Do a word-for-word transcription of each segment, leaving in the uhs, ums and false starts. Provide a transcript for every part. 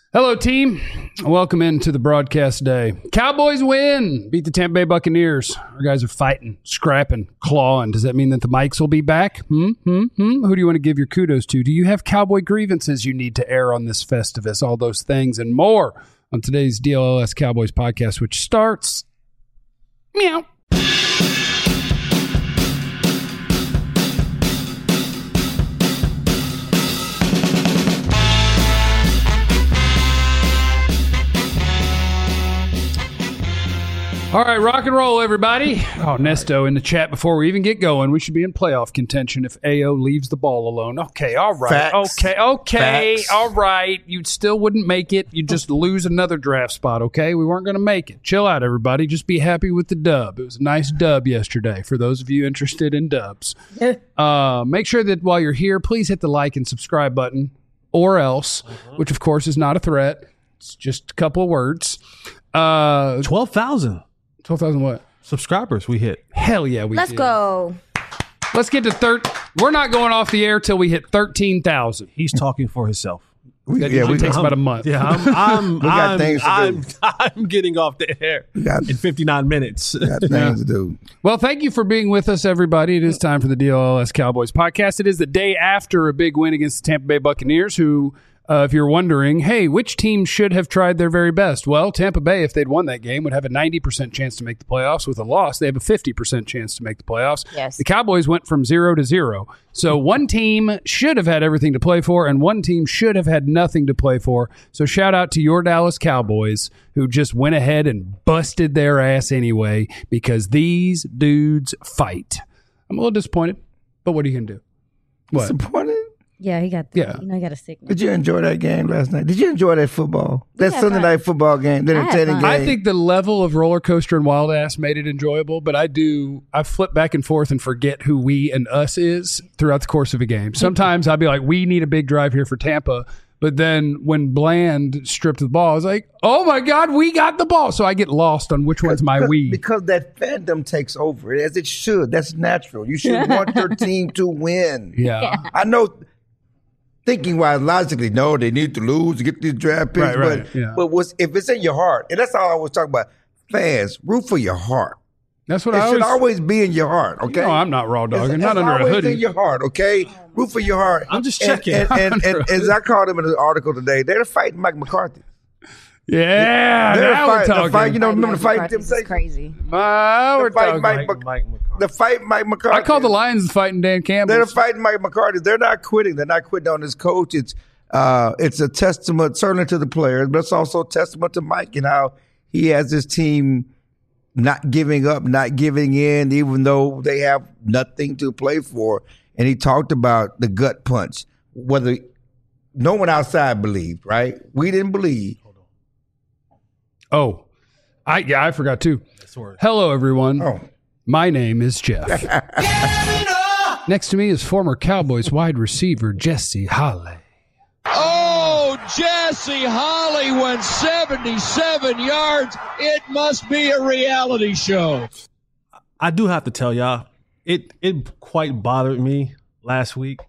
Hello, team. Welcome into the broadcast day. Cowboys win. Beat the Tampa Bay Buccaneers. Our guys are fighting, scrapping, clawing. Does that mean that the mics will be back? Hmm? Hmm? Hmm? Who do you want to give your kudos to? Do you have cowboy grievances you need to air on this Festivus? All those things and more on today's D L L S Cowboys podcast, which starts meow. All right, rock and roll, everybody. Oh, Nesto in the chat before we even get going. We should be in playoff contention if A O leaves the ball alone. Okay, all right. Facts. Okay, okay, Facts. all right. You still wouldn't make it. You'd just lose another draft spot, okay? We weren't going to make it. Chill out, everybody. Just be happy with the dub. It was a nice dub yesterday for those of you interested in dubs. uh, make sure that while you're here, please hit the like and subscribe button or else, uh-huh. which, of course, is not a threat. It's just a couple of words. Uh, twelve thousand. twelve thousand what? Subscribers we hit. Hell yeah, we Let's did. go. Let's get to third. We're not going off the air till we hit thirteen thousand. He's talking for himself. That yeah, usually we, takes I'm, about a month. Yeah, I'm, I'm, we got I'm, things to I'm, do. I'm getting off the air we got, in fifty-nine minutes. We got things yeah. to do. Well, thank you for being with us, everybody. It is time for the D L L S Cowboys podcast. It is the day after a big win against the Tampa Bay Buccaneers, who, uh, if you're wondering, hey, which team should have tried their very best? Well, Tampa Bay, if they'd won that game, would have a ninety percent chance to make the playoffs. With a loss, they have a fifty percent chance to make the playoffs. Yes. The Cowboys went from zero to zero. So one team should have had everything to play for, and one team should have had nothing to play for. So shout out to your Dallas Cowboys, who just went ahead and busted their ass anyway, because these dudes fight. I'm a little disappointed, but what are you going to do? What? Disappointed? Yeah, he got. Yeah. You know, he got a sickness. Did you enjoy that game last night? Did you enjoy that football? That had Sunday fun. night football game, the I had entertaining fun. game. I think the level of roller coaster and wild ass made it enjoyable, but I do, I flip back and forth and forget who we and us is throughout the course of a game. Sometimes I'll be like, we need a big drive here for Tampa. But then when Bland stripped the ball, I was like, oh my God, we got the ball. So I get lost on which one's my because, we. Because that fandom takes over, as it should. That's natural. You should want your team to win. Yeah. Yeah. I know, thinking wise, logically, no, they need to lose to get these draft picks. Right, right, but yeah. but what's, if it's in your heart, and that's all I was talking about, fans, root for your heart. That's what It I should always, always be in your heart, okay? No, I'm not raw dogging, It's, not it's under a always hoodie. in your heart, okay? Root for your heart. I'm just And- checking. And, and, and, and as I called him in an article today, they're fighting Mike McCarthy. Yeah, They're now we're fight- the talking. fight, you know, remember the fight? McCarthy's Them is crazy. Ah, we're The fight talking. Mike, Mike, Mike McCarthy. the fight Mike McCarthy. I call the Lions fighting Dan Campbell. They're fighting Mike McCarthy. They're not quitting. They're not quitting on his coach. It's uh, it's a testament certainly to the players, but it's also a testament to Mike and how he has his team not giving up, not giving in, even though they have nothing to play for. And he talked about the gut punch, whether no one outside believed, right? We didn't believe. Oh, I yeah, I forgot too. Sorry. Hello, everyone. Oh. My name is Jeff. Next to me is former Cowboys wide receiver Jesse Holley. Oh, Jesse Holley went seventy-seven yards. It must be a reality show. I do have to tell y'all, it it quite bothered me last week.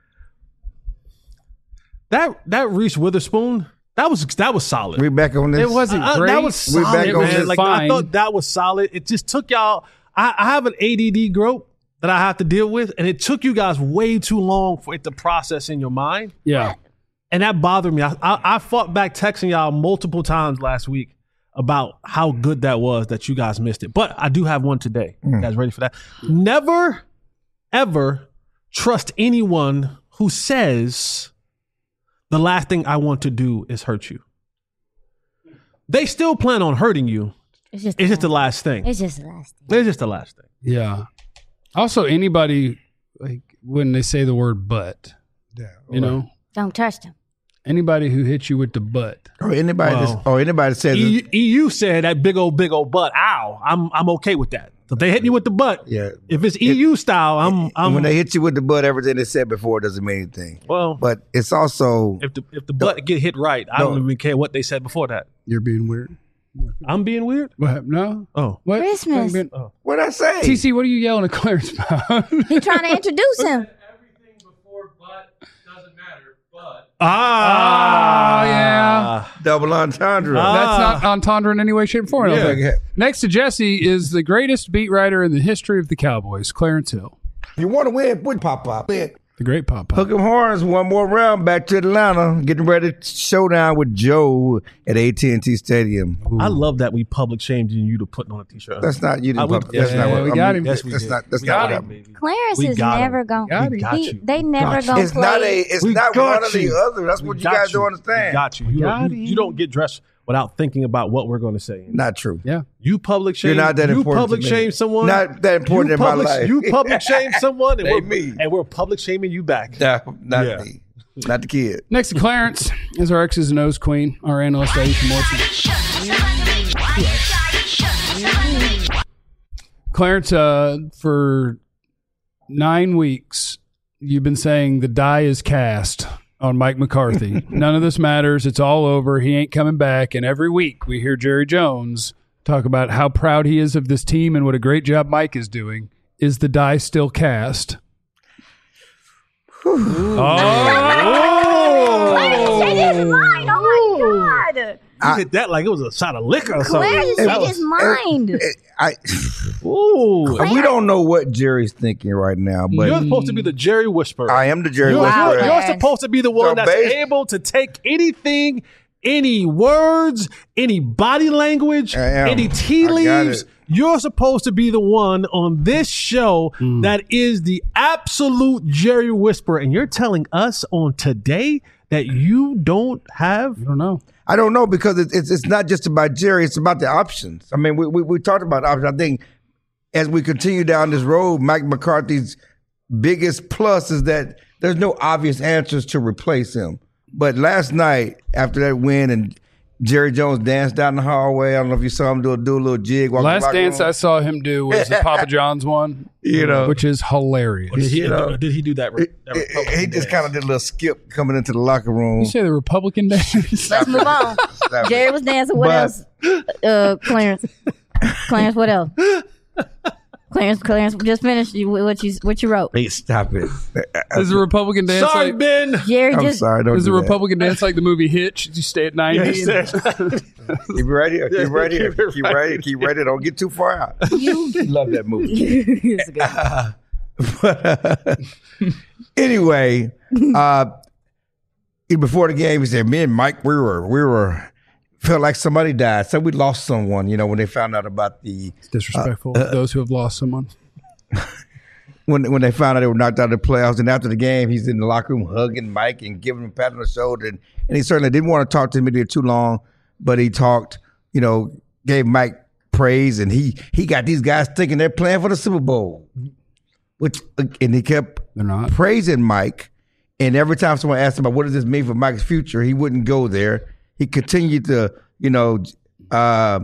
That that Reese Witherspoon, that was that was solid. We back on this. It wasn't Uh, great. that was We solid, back on man. this. Like Fine. I thought that was solid. It just took y'all. I, I have an A D D group that I have to deal with, and it took you guys way too long for it to process in your mind, Yeah. and that bothered me. I, I, I fought back texting y'all multiple times last week about how good that was that you guys missed it. But I do have one today. You guys ready for that? Never, ever trust anyone who says the last thing I want to do is hurt you. They still plan on hurting you. It's just. It's just the last thing. It's just the last thing. It's just the last thing. Yeah. Also, anybody, like, when they say the word butt, you know, Don't touch them. anybody who hits you with the butt. Or anybody, Wow. that's, or anybody says, E- EU said that big old, big old butt. Ow. I'm I'm okay with that. So if they hit me with the butt, yeah. if it's E U style, I'm I'm when they hit you with the butt, everything they said before doesn't mean anything. well. But it's also If the if the butt get hit right, I don't No. even care what they said before that. You're being weird. I'm being weird. What happened? No? Oh, What? Christmas. Being- what I say. T C, what are you yelling at Clarence about? He trying to introduce him. Everything before butt doesn't matter, but ah, Oh, yeah. Double entendre. Ah. That's not entendre in any way, shape, or form. I don't Yeah. think. Next to Jesse is the greatest beat writer in the history of the Cowboys, Clarence Hill. If you want to win, put pop up. The great Pop Pop. Hook 'em horns, one more round back to Atlanta. Getting ready to showdown with Joe at A T and T Stadium. I love that we public shamed you to putting on a t-shirt. That's not you. I Didn't would- pop, that's yeah, not what we I got mean, him. That's, Yes, we that's did. not. That's We not got what him, happened. baby. Clarence We is got never him. going. We got He, you. they never Got you. gonna It's play. not a. It's We not got one or the you. other. That's We what you got guys don't understand. We got you. You, got don't, you, him. you don't get dressed without thinking about what we're going to say. Not true. Yeah. You public shame. You're not that you important public to me. shame someone. Not that important you in my public, life. You public shame someone, and Ain't we're, me. and we're public shaming you back. Nah, not Yeah. me. Not the kid. Next to Clarence is our X's and O's queen, our analyst, Aisha Morrison. Clarence, uh, for nine weeks, you've been saying the die is cast on Mike McCarthy. None of this matters. It's all over. He ain't coming back. And every week we hear Jerry Jones talk about how proud he is of this team and what a great job Mike is doing. Is the die still cast? Clarence changed his mind. Oh my God. You hit that like it was a shot of liquor or something. Clarence That changed was- his mind. I. Ooh. We don't know what Jerry's thinking right now, but You're supposed to be the Jerry Whisperer. I am the Jerry You're, Wow, Whisperer. you're, you're man. supposed to be the one So that's based- able to take anything, any words, any body language, I am. any tea I got leaves. it. You're supposed to be the one on this show that is the absolute Jerry Whisperer. And you're telling us on today that you don't have. I don't know. I don't know because it's, it's it's not just about Jerry. It's about the options. I mean, we we, we talked about options. I think as we continue down this road, Mike McCarthy's biggest plus is that there's no obvious answers to replace him. But last night, after that win, and Jerry Jones danced down the hallway. I don't know if you saw him do a, do a little jig. walk Last the locker dance room. I saw him do was the Papa John's one, You know. which is hilarious. Did he, You know. did he do that? He- that he, Republican he just dance? kind of did a little skip coming into the locker room. You say the Republican dance? Let's move on. Stop it. Jerry was dancing. What But- else? Uh, Clarence. Clarence, what else? Clarence, Clarence, just finished you- what you what you wrote. Hey, stop it. Is the Republican dance Sorry, like? Ben. Jerry I'm just sorry. Don't Is the do that. Republican dance like the movie Hitch? You stay at ninety. Yes, Keep right here. Keep right here. Keep it Keep right right here. Keep right here. Don't get too far out. you. Love that movie. It's good. But, uh, anyway, uh, before the game, he said, "Me and Mike, we were, we were, felt like somebody died. So we lost someone. You know, when they found out about the Disrespectful to those who have lost someone. when when they found out they were knocked out of the playoffs. And after the game, he's in the locker room hugging Mike and giving him a pat on the shoulder. And, and he certainly didn't want to talk to him there too long, but he talked. You know, gave Mike praise, and he he got these guys thinking they're playing for the Super Bowl. Which and he kept They're not. praising Mike. And every time someone asked him about what does this mean for Mike's future, he wouldn't go there. He continued to, you know, uh,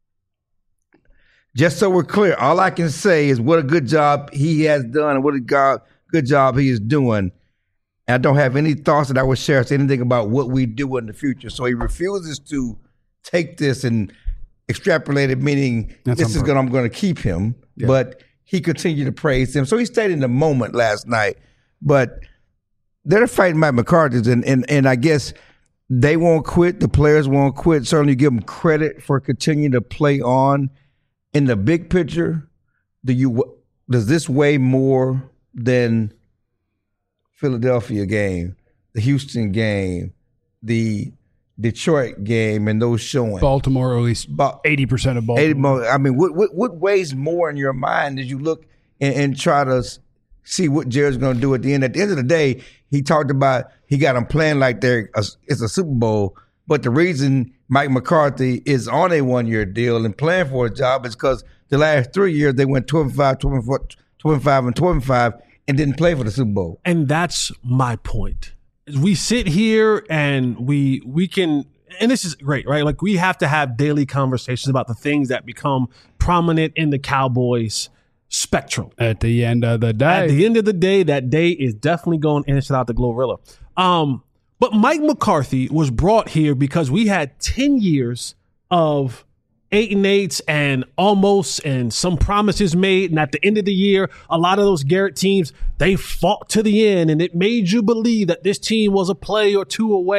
just so we're clear, all I can say is what a good job he has done and what a go- good job he is doing. And I don't have any thoughts that I would share to anything about what we do in the future. So he refuses to take this and extrapolate it, meaning That's this on is purpose. going I'm going to keep him. But he continued to praise him. So he stayed in the moment last night. But they're fighting Mike McCarthy, and, and, and I guess they won't quit. The players won't quit. Certainly give them credit for continuing to play on. In the big picture, do you does this weigh more than Philadelphia game, the Houston game, the Detroit game, and those showing? Baltimore, or at least About eighty percent of Baltimore. eighty more. I mean, what, what what weighs more in your mind as you look and, and try to s- see what Jared's going to do at the end? At the end of the day, he talked about he got them playing like they're a, it's a Super Bowl. But the reason Mike McCarthy is on a one-year deal and playing for a job is because the last three years they went twelve and five, twelve and four, twelve and five, and twelve and five and didn't play for the Super Bowl. And that's my point. We sit here and we we can, and this is great, right? Like we have to have daily conversations about the things that become prominent in the Cowboys spectrum. At the end of the day. At the end of the day, that day is definitely going in and shout out to Glorilla. Um, but Mike McCarthy was brought here because we had ten years of eight and eights and almost and some promises made. And at the end of the year, a lot of those Garrett teams, they fought to the end and it made you believe that this team was a play or two away.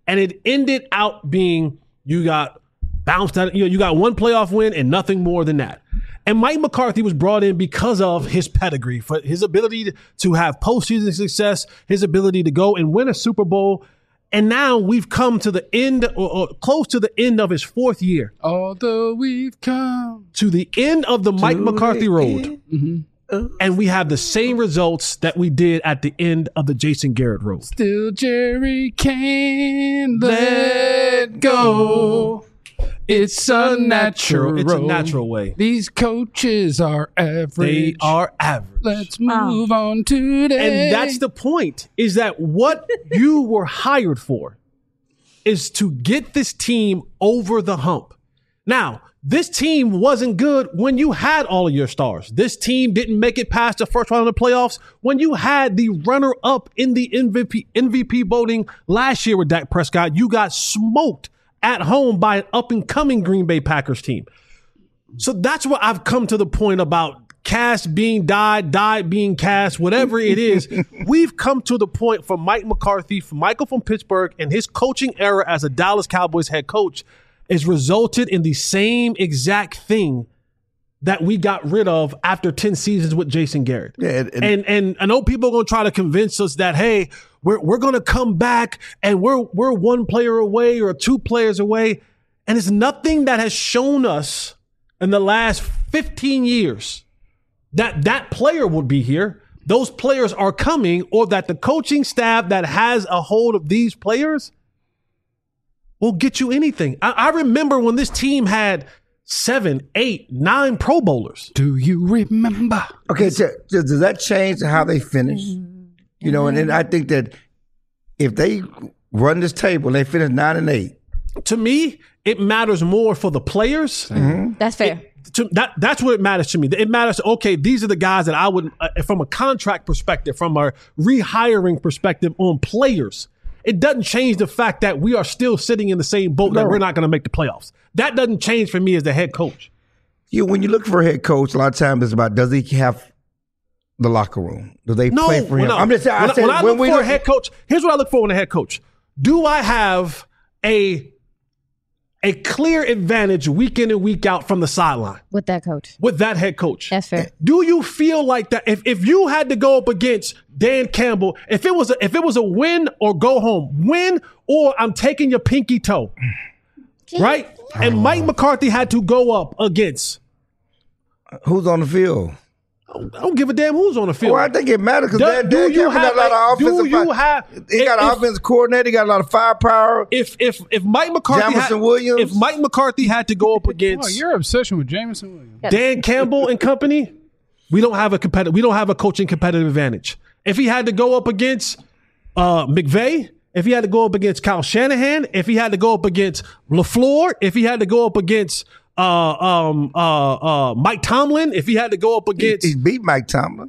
And it ended out being you got bounced out. You know, you got one playoff win and nothing more than that. And Mike McCarthy was brought in because of his pedigree, for his ability to have postseason success, his ability to go and win a Super Bowl. And now we've come to the end, or, or close to the end of his fourth year. Although we've come to the end of the Mike McCarthy road. Mm-hmm. And we have the same results that we did at the end of the Jason Garrett road. Still Jerry can't let go. It's a natural. It's a natural way. These coaches are average. They are average. Let's move oh. on today. And that's the point, is that what you were hired for is to get this team over the hump. Now, this team wasn't good when you had all of your stars. This team didn't make it past the first round of the playoffs when you had the runner-up in the M V P, M V P voting last year with Dak Prescott. You got smoked at home by an up-and-coming Green Bay Packers team. So that's what I've come to the point about cast being died, died being cast, whatever it is. We've come to the point for Mike McCarthy, for Michael from Pittsburgh, and his coaching era as a Dallas Cowboys head coach has resulted in the same exact thing that we got rid of after ten seasons with Jason Garrett. Yeah, and, and, and and I know people are going to try to convince us that, hey, we're we're going to come back and we're we're one player away or two players away. And it's nothing that has shown us in the last fifteen years that that player would be here. Those players are coming, or that the coaching staff that has a hold of these players will get you anything. I, I remember when this team had seven, eight, nine Pro Bowlers. Do you remember? Okay, so, so does that change how they finish? You know, and then I think that if they run this table and they finish nine and eight, to me, it matters more for the players. Mm-hmm. That's fair. It, to, that that's what it matters to me. It matters. Okay, these are the guys that I would, uh, from a contract perspective, from a rehiring perspective on players. It doesn't change the fact that we are still sitting in the same boat, no. that we're not going to make the playoffs. That doesn't change for me as the head coach. You, when you look for a head coach, a lot of times it's about, does he have the locker room? Do they no, play for him? No. I'm just saying. When, I, said, when I when look we for look, a head coach, here's what I look for in a head coach. Do I have a a clear advantage week in and week out from the sideline with that coach? With that head coach, that's fair. Do you feel like that? If if you had to go up against Dan Campbell, if it was a, if it was a win or go home, win or I'm taking your pinky toe, right? And Mike McCarthy had to go up against who's on the field. I don't give a damn who's on the field. Well, I think it matters because Dan do you Campbell have got a lot of offensive. Do you have? He got an offensive coordinator. He got a lot of firepower. If if if Mike McCarthy, Jamison had, Williams. if Mike McCarthy had to go up against, oh, your obsession with Jamison Williams, Dan Campbell and company, we don't have a competitive. We don't have a coaching competitive advantage. If he had to go up against uh, McVay, if he had to go up against Kyle Shanahan, if he had to go up against LaFleur, if he had to go up against uh, um, uh, uh, Mike Tomlin, if he had to go up against, he, he beat Mike Tomlin.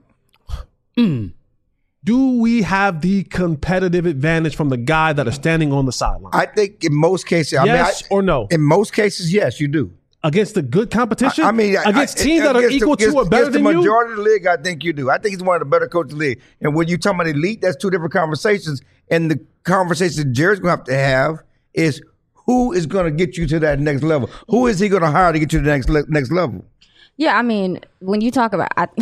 Mm, do we have the competitive advantage from the guy that is standing on the sideline? I think in most cases, I yes mean, I, or no. In most cases, yes, you do. Against the good competition? I, I mean, against I, teams that are equal the, to or better the than you? the majority of the league, I think you do. I think he's one of the better coaches in the league. And when you talk about elite, that's two different conversations. And the conversation Jerry's going to have to have is who is going to get you to that next level? Who is he going to hire to get you to the next le- next level? Yeah, I mean, when you talk about, I,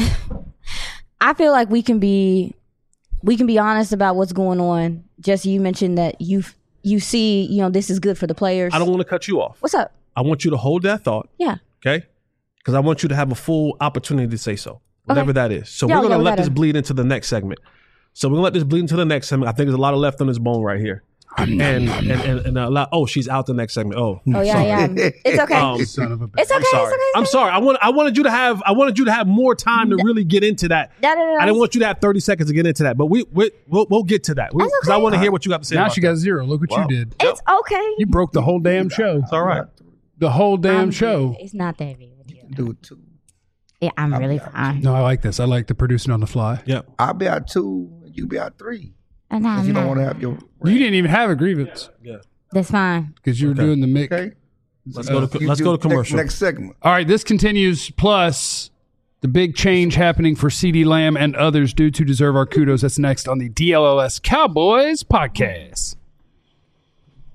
I feel like we can be, we can be honest about what's going on. Jesse, you mentioned that you you see, you know, this is good for the players. I don't want to cut you off. What's up? I want you to hold that thought. Yeah. Okay? Because I want you to have a full opportunity to say so, whatever okay. that is. So yeah, we're going to yeah, let gotta. this bleed into the next segment. So we're going to let this bleed into the next segment. I think there's a lot of left on this bone right here. and and and, and a lot, oh, she's out the next segment. Oh, oh yeah, sorry. yeah. It's okay. Um, son of a bitch. It's okay. I'm sorry. It's okay. I'm sorry. I want I wanted you to have I wanted you to have more time to really get into that. No, no, no, I didn't want you to have thirty seconds to get into that, but we, we we'll we'll get to that because okay. I want to hear what you got to say. Now about she that. got zero. Look what Wow. you did. It's okay. You broke the whole damn show. It's all right. The whole damn I'm show. Good. It's not that big of a deal. Do it too. Yeah, I'm really fine. No, I like this. I like the producing on the fly. Yeah. I'll be out two, and you be out three. And I'm If you don't not. want to have your. You didn't even have a grievance Yeah. That's fine. because you were Okay. doing the mix. Okay. Let's go to You let's do go to commercial. Next, next segment. All right, this continues. Plus, the big change happening for CeeDee Lamb and others due to deserve our kudos. That's next on the D L L S Cowboys podcast.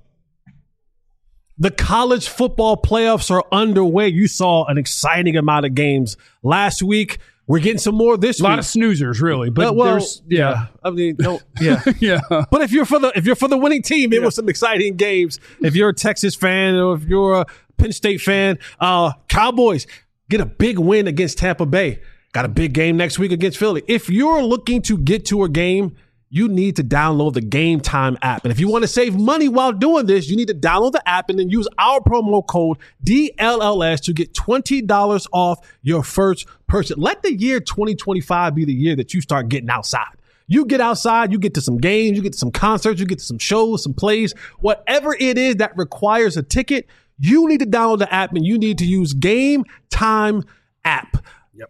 The college football playoffs are underway. You saw an exciting amount of games last week. We're getting some more this A week. lot of snoozers, really. But Uh, well, there's, yeah. I mean, no, yeah. Yeah. But if you're for the if you're for the winning team, it was some exciting games. If you're a Texas fan or if you're a Penn State fan, uh, Cowboys get a big win against Tampa Bay. Got a big game next week against Philly. If you're looking to get to a game, you need to download the Game Time app. And if you want to save money while doing this, you need to download the app and then use our promo code D L L S to get twenty dollars off your first purchase. Let the year twenty twenty-five be the year that you start getting outside. You get outside, you get to some games, you get to some concerts, you get to some shows, some plays, whatever it is that requires a ticket, you need to download the app and you need to use Game Time app.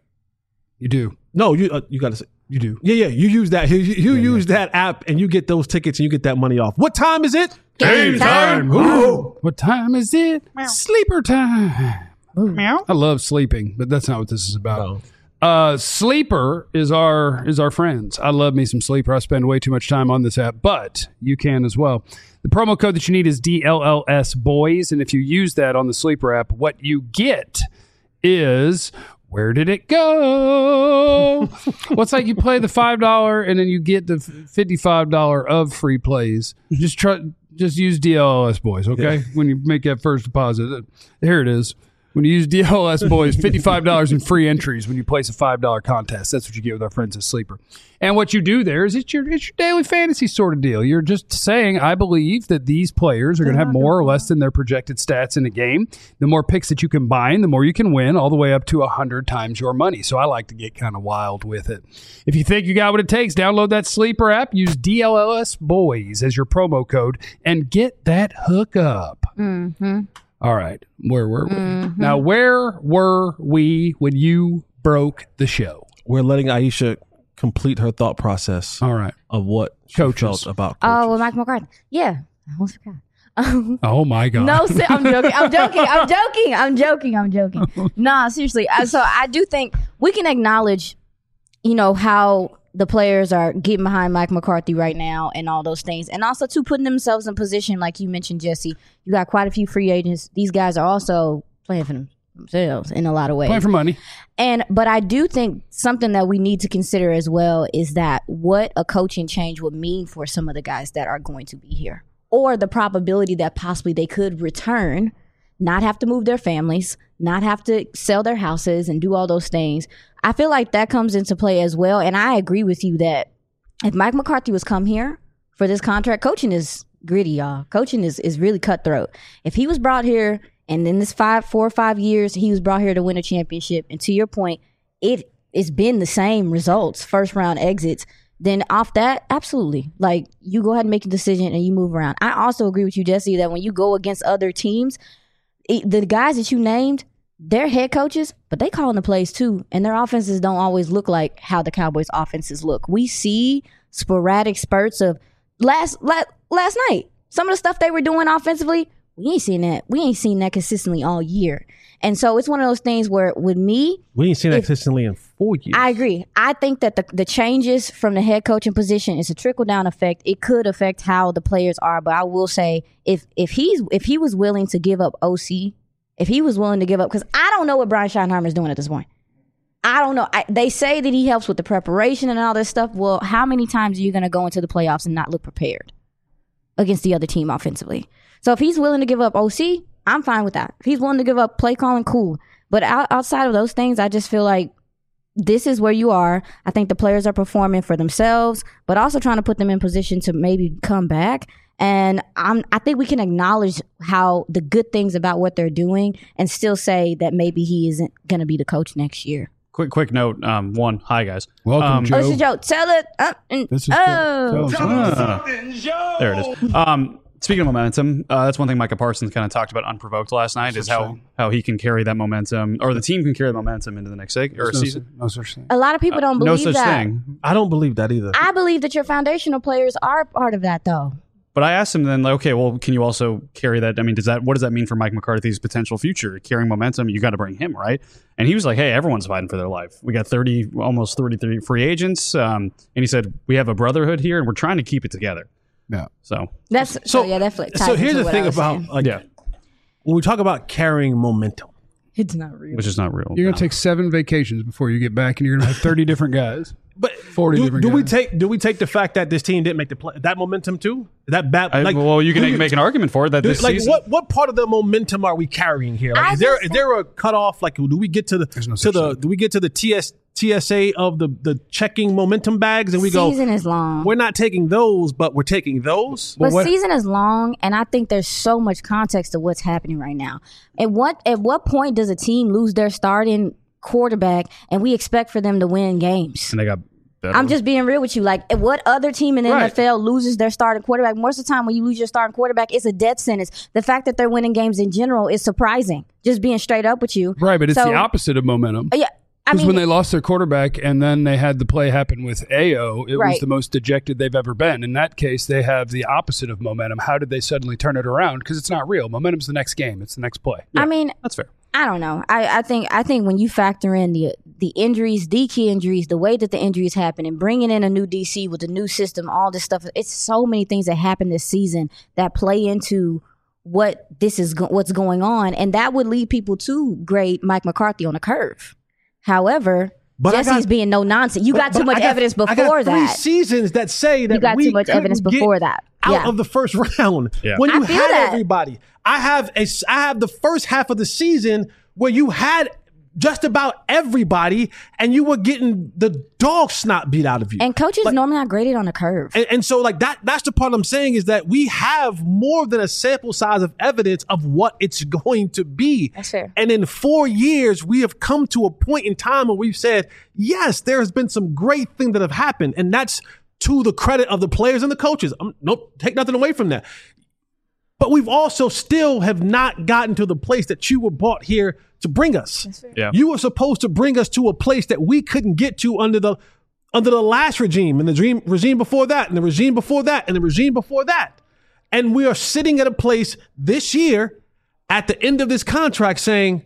You do. No, you uh, you got to say. You do. Yeah, yeah. You use that. You, you yeah, use yeah. that app and you get those tickets and you get that money off. What time is it? Game time. Ooh. What time is it? Meow. Sleeper time. Meow. I love sleeping, but that's not what this is about. No. Uh, Sleeper is our is our friends. I love me some Sleeper. I spend way too much time on this app, but you can as well. The promo code that you need is D L L S boys, and if you use that on the Sleeper app, what you get is... Where did it go? Well, it's like you play the five dollars and then you get the fifty-five dollars of free plays. Just try, just use D L L S boys, okay? Yeah. When you make that first deposit. Here it is. When you use D L L S boys, fifty-five dollars in free entries when you place a five dollars contest. That's what you get with our friends at Sleeper. And what you do there is it's your, it's your daily fantasy sort of deal. You're just saying, I believe that these players are going to have more or less than their projected stats in a game. The more picks that you combine, the more you can win, all the way up to one hundred times your money. So I like to get kind of wild with it. If you think you got what it takes, download that Sleeper app, use D L L S boys as your promo code, and get that hookup. Mm-hmm. All right. Where were we? Mm-hmm. Now, where were we when you broke the show? We're letting Aisha complete her thought process. All right. Of what she coaches. felt about coaches. Oh, well, Mike McCarthy. Yeah. I almost forgot. Oh, my God. No, I'm joking. I'm joking. I'm joking. I'm joking. I'm joking. Nah, seriously. So I do think we can acknowledge, you know, how the players are getting behind Mike McCarthy right now and all those things. And also, too, putting themselves in position, like you mentioned, Jesse. You got quite a few free agents. These guys are also playing for themselves in a lot of ways. Playing for money. And but I do think something that we need to consider as well is that what a coaching change would mean for some of the guys that are going to be here, or the probability that possibly they could return, not have to move their families, not have to sell their houses and do all those things. I feel like that comes into play as well. And I agree with you that if Mike McCarthy was come here for this contract, coaching is gritty, y'all. Coaching is, is really cutthroat. If he was brought here and in this five, four or five years, he was brought here to win a championship, and to your point, it it's been the same results, first round exits, then off that, absolutely. Like, you go ahead and make a decision and you move around. I also agree with you, Jesse, that when you go against other teams, it, the guys that you named, they're head coaches, but they calling the plays too, and their offenses don't always look like how the Cowboys' offenses look. We see sporadic spurts of last last, last night. Some of the stuff they were doing offensively, we ain't seen that. We ain't seen that consistently all year. And so it's one of those things where with me, we ain't seen that consistently in four years. I agree. I think that the, the changes from the head coaching position is a trickle down effect. It could affect how the players are, but I will say if if he's if he was willing to give up O C, if he was willing to give up, because I don't know what Brian Schottenheimer is doing at this point. I don't know. I, they say that he helps with the preparation and all this stuff. Well, how many times are you going to go into the playoffs and not look prepared against the other team offensively? So if he's willing to give up O C, I'm fine with that. If he's willing to give up play calling, cool. But out, outside of those things, I just feel like this is where you are. I think the players are performing for themselves, but also trying to put them in position to maybe come back. And I'm, I think we can acknowledge how the good things about what they're doing and still say that maybe he isn't going to be the coach next year. Quick, quick note. Um, one, hi guys. Welcome, um, Joe. Oh, this is Joe. Tell it. Uh, and, This is oh. uh, there it is. Um, speaking of momentum, uh, that's one thing Micah Parsons kind of talked about unprovoked last night No is such how, thing. how he can carry that momentum, or the team can carry the momentum into the next seg- or no, season. no such thing. A lot of people don't no believe such that. thing. I don't believe that either. I believe that your foundational players are part of that, though. But I asked him then, like, okay, well, can you also carry that? I mean, does that what does that mean for Mike McCarthy's potential future? Carrying momentum, you got to bring him, right? And he was like, hey, everyone's fighting for their life. We got thirty, almost thirty-three free agents. Um, and he said, we have a brotherhood here, and we're trying to keep it together. Yeah. So That's so, So- yeah, that flips. So here's the thing about like, yeah, when we talk about carrying momentum, It's not real. which is not real. You're going to take seven vacations before you get back, and you're going to have thirty different guys. but forty do, different do we guys. take do we take the fact that this team didn't make the play that momentum too? That bad. I, like, well, you can do make an argument for it that do- this like season. what what part of the momentum are we carrying here? Like, I is there just is there a cutoff? Like, do we get to the no to such the thing. do we get to the T S T S A of the the checking momentum bags and we go? Season is long. We're not taking those, but we're taking those. But what- season is long, and I think there's so much context to what's happening right now. At what at what point does a team lose their starting quarterback, and we expect for them to win games? and they got better. I'm just being real with you. Like, what other team in the Right. N F L loses their starting quarterback? Most of the time, when you lose your starting quarterback, it's a death sentence. The fact that they're winning games in general is surprising. Just being straight up with you, Right, but it's So- the opposite of momentum. Yeah, I Because mean, when they lost their quarterback and then they had the play happen with A O, it was Right. the most dejected they've ever been. In that case, they have the opposite of momentum. How did they suddenly turn it around? Because it's not real. Momentum's the next game. It's the next play. I mean, That's fair. I don't know. I, I think I think when you factor in the the injuries, the key injuries, the way that the injuries happen, and bringing in a new D C with a new system, all this stuff, it's so many things that happen this season that play into what this is go- what's going on, and that would lead people to grade Mike McCarthy on a curve. However, But I Jesse's got- being no nonsense. You got But too much I got- evidence I got before three that. seasons that say that You got we too much couldn't evidence get before that. out Yeah. of the first round. Yeah. When you I feel had that. everybody, I have a I have the first half of the season where you had just about everybody, and you were getting the dog snot beat out of you. And coaches Like- normally not graded on a curve. And, and so, like that, that's the part I'm saying is that we have more than a sample size of evidence of what it's going to be. That's fair. And in four years, we have come to a point in time where we've said, yes, there has been some great things that have happened, and that's to the credit of the players and the coaches. Um, nope, take nothing away from that. But we've also still have not gotten to the place that you were brought here to bring us. Yeah. You were supposed to bring us to a place that we couldn't get to under the under the last regime and the dream, regime before that and the regime before that and the regime before that. And we are sitting at a place this year at the end of this contract saying,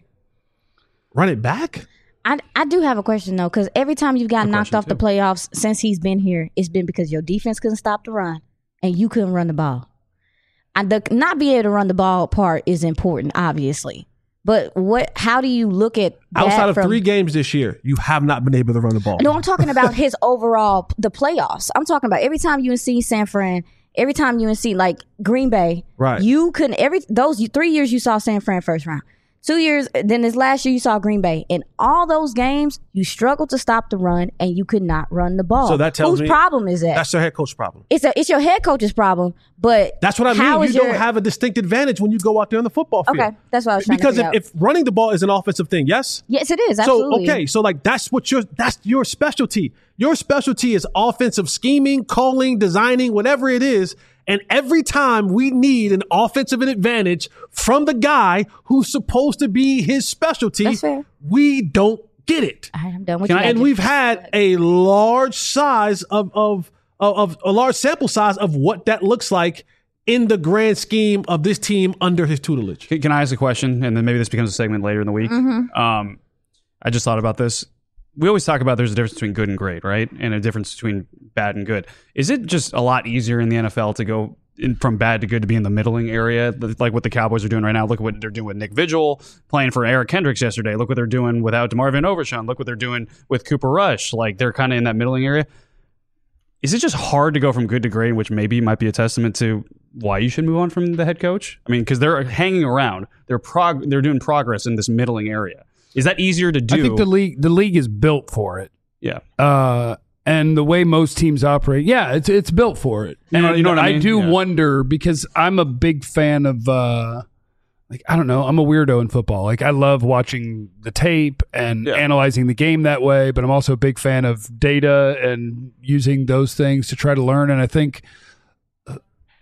run it back? I, I do have a question though, because every time you've gotten knocked question, off the too. playoffs since he's been here, it's been because your defense couldn't stop the run and you couldn't run the ball. And the not being able to run the ball part is important, obviously. But what? How do you look at that Outside of from, three games this year, you have not been able to run the ball. No, I'm talking about his overall the playoffs. I'm talking about every time U N C San Fran, every time U N C like Green Bay, Right. You couldn't every those three years you saw San Fran first round. Two years, then this last year you saw Green Bay. In all those games, you struggled to stop the run and you could not run the ball. So that tells Whose me problem is that? That's their head coach problem. It's a it's your head coach's problem. But That's what I how mean. You is don't your- have a distinct advantage when you go out there on the football field. Okay, that's what I was trying Because to if, figure out. if running the ball is an offensive thing, yes? Yes, it is. Absolutely. So okay, so like that's what your that's your specialty. Your specialty is offensive scheming, calling, designing, whatever it is. And every time we need an offensive advantage from the guy who's supposed to be his specialty, That's fair. we don't get it. All right, I'm done with Can you. I- And we've had a large size of of, of of a large sample size of what that looks like in the grand scheme of this team under his tutelage. Can, can I ask a question? And then maybe this becomes a segment later in the week. Mm-hmm. Um, I just thought about this. We always talk about there's a difference between good and great, right? And a difference between bad and good. Is it just a lot easier in the N F L to go in, from bad to good to be in the middling area, like what the Cowboys are doing right now? Look at what they're doing with Nick Vigil playing for Eric Kendricks yesterday. Look what they're doing without DeMar Van Overshown. Look what they're doing with Cooper Rush. Like they're kind of in that middling area. Is it just hard to go from good to great, which maybe might be a testament to why you should move on from the head coach? I mean, because they're hanging around, they're prog- they're doing progress in this middling area. Is that easier to do? I think the league the league is built for it. yeah. Uh, and the way most teams operate, yeah, it's it's built for it. You know- and you know what I mean? do Yeah. wonder because I'm a big fan of uh, like I don't know, I'm a weirdo in football. Like I love watching the tape and Yeah. analyzing the game that way, but I'm also a big fan of data and using those things to try to learn. And I think uh,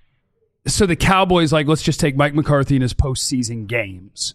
so. The Cowboys, like, let's just take Mike McCarthy in his postseason games.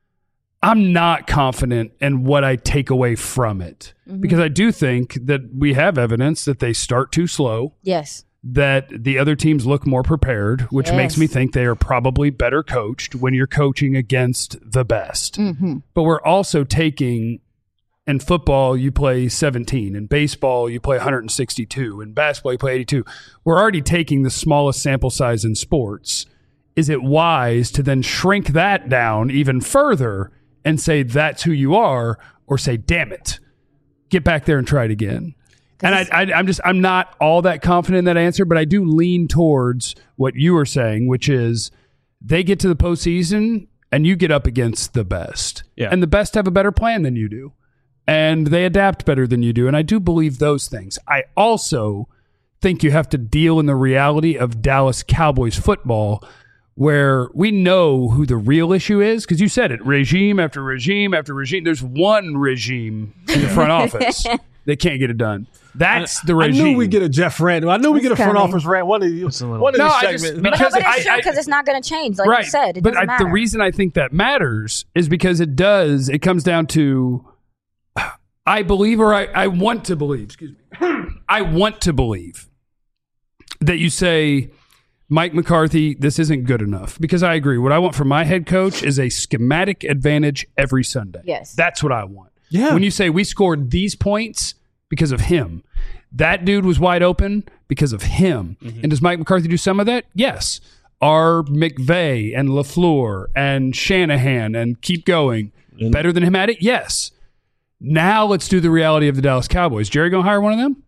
I'm not confident in what I take away from it because I do think that we have evidence that they start too slow, Yes. that the other teams look more prepared, which Yes. makes me think they are probably better coached when you're coaching against the best. Mm-hmm. But we're also taking, in football, you play seventeen. In baseball, you play one hundred sixty-two. In basketball, you play eighty-two. We're already taking the smallest sample size in sports. is it wise to then shrink that down even further and say that's who you are, or say, damn it, get back there and try it again? And I, I, I'm just, I'm not all that confident in that answer, but I do lean towards what you were saying, which is they get to the postseason and you get up against the best. Yeah. And the best have a better plan than you do. And they adapt better than you do. And I do believe those things. I also think you have to deal in the reality of Dallas Cowboys football, where we know who the real issue is, because you said it, regime after regime after regime. There's one regime in the front office that can't get it done. That's the regime. I knew we'd get a Jeff rant. I knew we'd get a front coming. office rant. One of these, one of No, these I just- segments. But, no, Because but it's I- true I- because it's not going to change, like right. you said. It but doesn't I, matter. the reason I think that matters is because it does. It comes down to, I believe, or I, I want to believe, excuse me. I want to believe that you say, Mike McCarthy, this isn't good enough. Because I agree. What I want from my head coach is a schematic advantage every Sunday. Yes. That's what I want. Yeah. When you say we scored these points because of him, that dude was wide open because of him. Mm-hmm. And does Mike McCarthy do some of that? Yes. Are McVay and LaFleur and Shanahan and keep going Mm-hmm. better than him at it? Yes. Now let's do the reality of the Dallas Cowboys. Jerry going to hire one of them?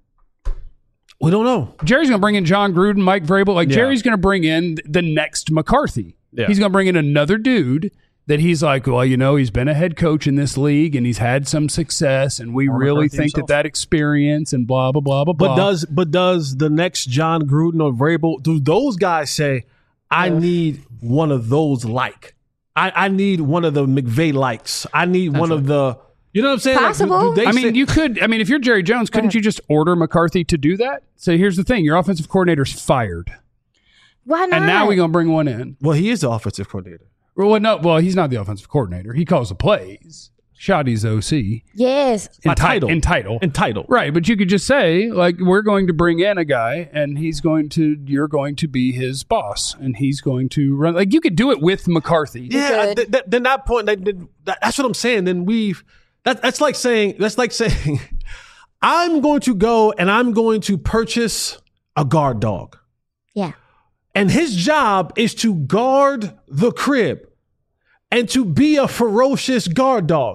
We don't know. Jerry's going to bring in John Gruden, Mike Vrabel. Like, Yeah. Jerry's going to bring in the next McCarthy. Yeah. He's going to bring in another dude that he's like, well, you know, he's been a head coach in this league and he's had some success, and we Or really McCarthy think himself. that that experience and blah, blah, blah, blah, blah. But does but does the next John Gruden or Vrabel, do those guys say, I need one of those like? I, I need one of the McVay likes. I need one of the, you know what I'm saying? Like, do- do Possible. they I mean, say- you could. I mean, if you're Jerry Jones, couldn't you just order McCarthy to do that? So here's the thing: your offensive coordinator's fired, Why not? and now we're gonna bring one in. well, he is the offensive coordinator. Well, no, well, he's not the offensive coordinator. He calls the plays. Shoddy's O C. Yes. By Enti- title. entitle. Entitled. Right, but you could just say, like, we're going to bring in a guy, and he's going to, you're going to be his boss, and he's going to run. Like, you could do it with McCarthy. Yeah, could. th- th- then that point, that, that, that's what I'm saying. Then we've that, that's like saying that's like saying I'm going to go and I'm going to purchase a guard dog, Yeah. and his job is to guard the crib and to be a ferocious guard dog.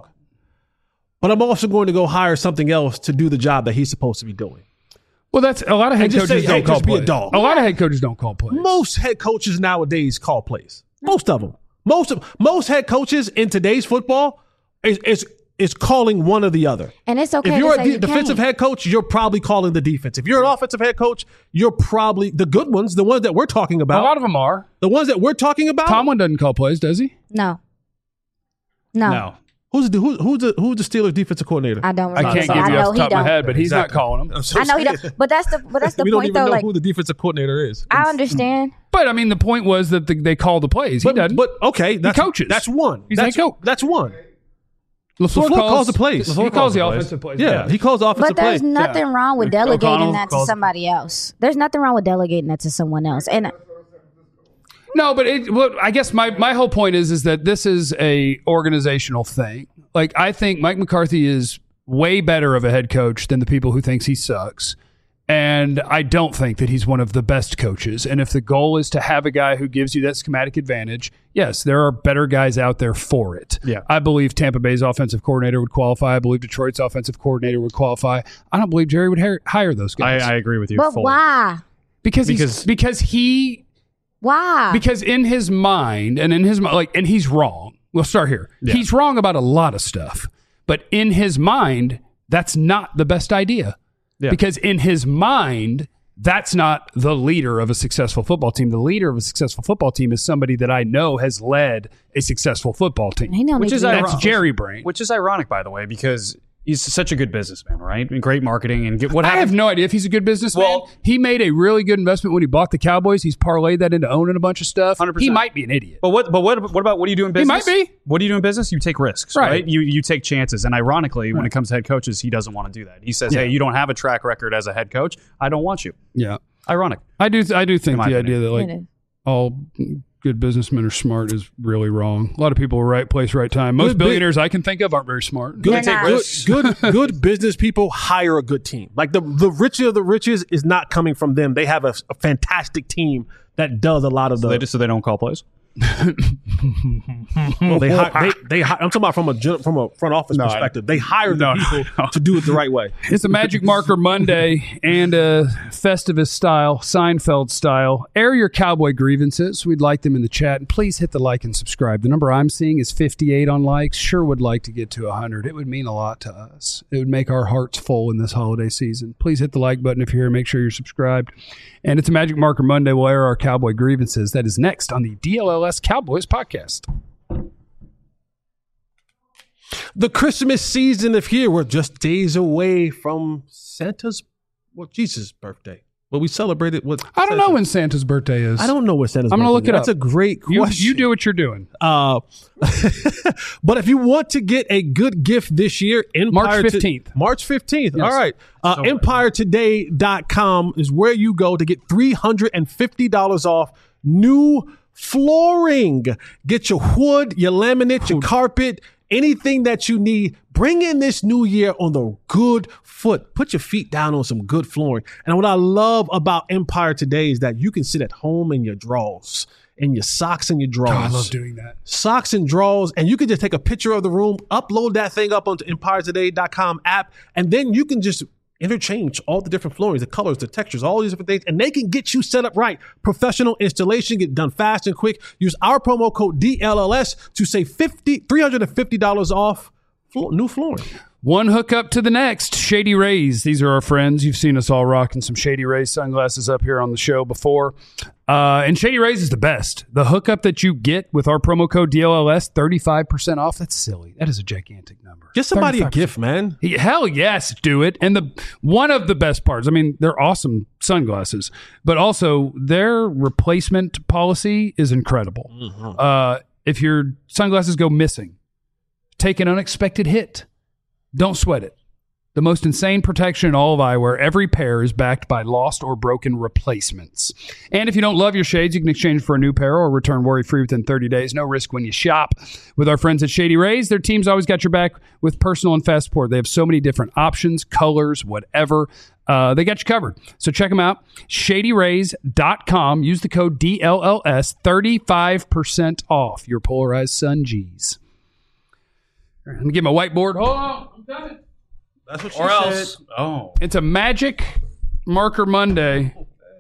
But I'm also going to go hire something else to do the job that he's supposed to be doing. Well, that's a lot of head just coaches say, don't hey, call just be a plays. dog. A lot of head coaches don't call plays. Most head coaches nowadays call plays. Most of them. Most of most head coaches in today's football is is, is calling one or the other. And it's okay If you're to a say de- you defensive can't. head coach, you're probably calling the defense. If you're an offensive head coach, you're probably the good ones, the ones that we're talking A about. lot of them are. the ones that we're talking about. Tomlin doesn't call plays, does he? No. No. No. Who's the who, who's the who's the Steelers defensive coordinator? I don't I remember. can't but give I you know off the he top of my don't. head, but he's not Exactly. calling them. I'm so I know he saying. don't. But that's the but that's the we don't point even though. know Like who the defensive coordinator is. I understand. But I mean, the point was that the, they call the plays. He But, doesn't. but okay, that's, coaches. That's one. He's that's, head coach. that's one. LaFleur, LaFleur calls the plays. He LaFleur calls calls the the plays. offensive plays. Yeah, he calls offensive But there's plays. nothing wrong with delegating O'Connell that to calls- somebody else. There's nothing wrong with delegating that to someone else. And No, but it, well, I guess my, my whole point is is that this is a organizational thing. Like, I think Mike McCarthy is way better of a head coach than the people who thinks he sucks. And I don't think that he's one of the best coaches. And if the goal is to have a guy who gives you that schematic advantage, yes, there are better guys out there for it. Yeah. I believe Tampa Bay's offensive coordinator would qualify. I believe Detroit's offensive coordinator would qualify. I don't believe Jerry would hire, hire those I, guys. I agree with you. but fully. why? because he's, because- because he Why? because in his mind and in his mi- like and he's wrong. We'll start here. Yeah. He's wrong about a lot of stuff, but in his mind, that's not the best idea. Yeah. Because in his mind, that's not the leader of a successful football team. The leader of a successful football team is somebody that I know has led a successful football team. he don't Which need is to be- ironic. That's Jerry brain. Which is ironic, by the way, because he's such a good businessman, right? And great marketing and get, what I happened. have no idea if he's a good businessman. Well- he made a really good investment when he bought the Cowboys. He's parlayed that into owning a bunch of stuff. one hundred percent. He might be an idiot. But what? But what? What about what do you do in He business? might be. What do you do in business? You take risks, Right. right? You you take chances. And ironically, when it comes to head coaches, he doesn't want to do that. He says, Yeah. "Hey, you don't have a track record as a head coach. I don't want you." Yeah. Ironic. I do I do think In the my idea that like It is. all good businessmen are smart is really wrong. A lot of people are right place, right time. Most Good bit- billionaires I can think of aren't very smart. Good, They're not. good, good, good business people hire a good team. Like the the richer of the riches is not coming from them. They have a, a fantastic team that does a lot of the. They just so they don't call plays. Well, they, hi- they they hi- I'm talking about from a gen- from a front office No, I- perspective. They hire the No, no, people no. to do it the right way. It's a Magic Marker Monday and a Festivus style, Seinfeld style. Air your cowboy grievances. We'd like them in the chat. And please hit the like and subscribe. The number I'm seeing is fifty-eight on likes. Sure would like to get to one hundred. It would mean a lot to us. It would make our hearts full in this holiday season. Please hit the like button if you're here. Make sure you're subscribed. And it's a Magic Marker Monday. We'll air our cowboy grievances. That is next on the D L L S Cowboys podcast. The Christmas season is here. We're just days away from Santa's, well, Jesus' birthday. But we celebrated with. I don't know when Santa's birthday is. I don't know what Santa's I'm gonna birthday look it is. That's up. a great You, question. you do what you're doing. Uh, but if you want to get a good gift this year, Empire March to- fifteenth. March fifteenth. Yes. All right. Uh, empire today dot com is where you go to get three hundred fifty dollars off new flooring. Get your wood, your laminate, your carpet, anything that you need. Bring in this new year on the good foot. Put your feet down on some good flooring. And what I love about Empire Today is that you can sit at home in your drawers, in your socks and your drawers. Oh, I love doing that. Socks and drawers, and you can just take a picture of the room, upload that thing up onto empire today dot com app, and then you can just interchange all the different floorings, the colors, the textures, all these different things, and they can get you set up right. Professional installation, get done fast and quick. Use our promo code D L L S to save three hundred fifty dollars off floor, new flooring. One hookup to the next. Shady Rays. These are our friends. You've seen us all rocking some Shady Rays sunglasses up here on the show before. Uh, and Shady Rays is the best. The hookup that you get with our promo code D L L S, thirty-five percent off. That's silly. That is a gigantic number. Get somebody a thirty-five percent. gift, man. He- Hell yes, do it. And the one of the best parts, I mean, they're awesome sunglasses, but also their replacement policy is incredible. Uh, if your sunglasses go missing, take an unexpected hit. Don't sweat it. The most insane protection in all of eyewear. Every pair is backed by lost or broken replacements. And if you don't love your shades, you can exchange for a new pair or return worry-free within thirty days. No risk when you shop. With our friends at Shady Rays, their team's always got your back with personal and fast support. They have so many different options, colors, whatever. Uh, they got you covered. So check them out. shady rays dot com. Use the code D L L S. thirty-five percent off your polarized sun G's. All right, let me get my whiteboard. Hold on. I'm coming. That's what she Or said. else, oh, It's a Magic Marker Monday.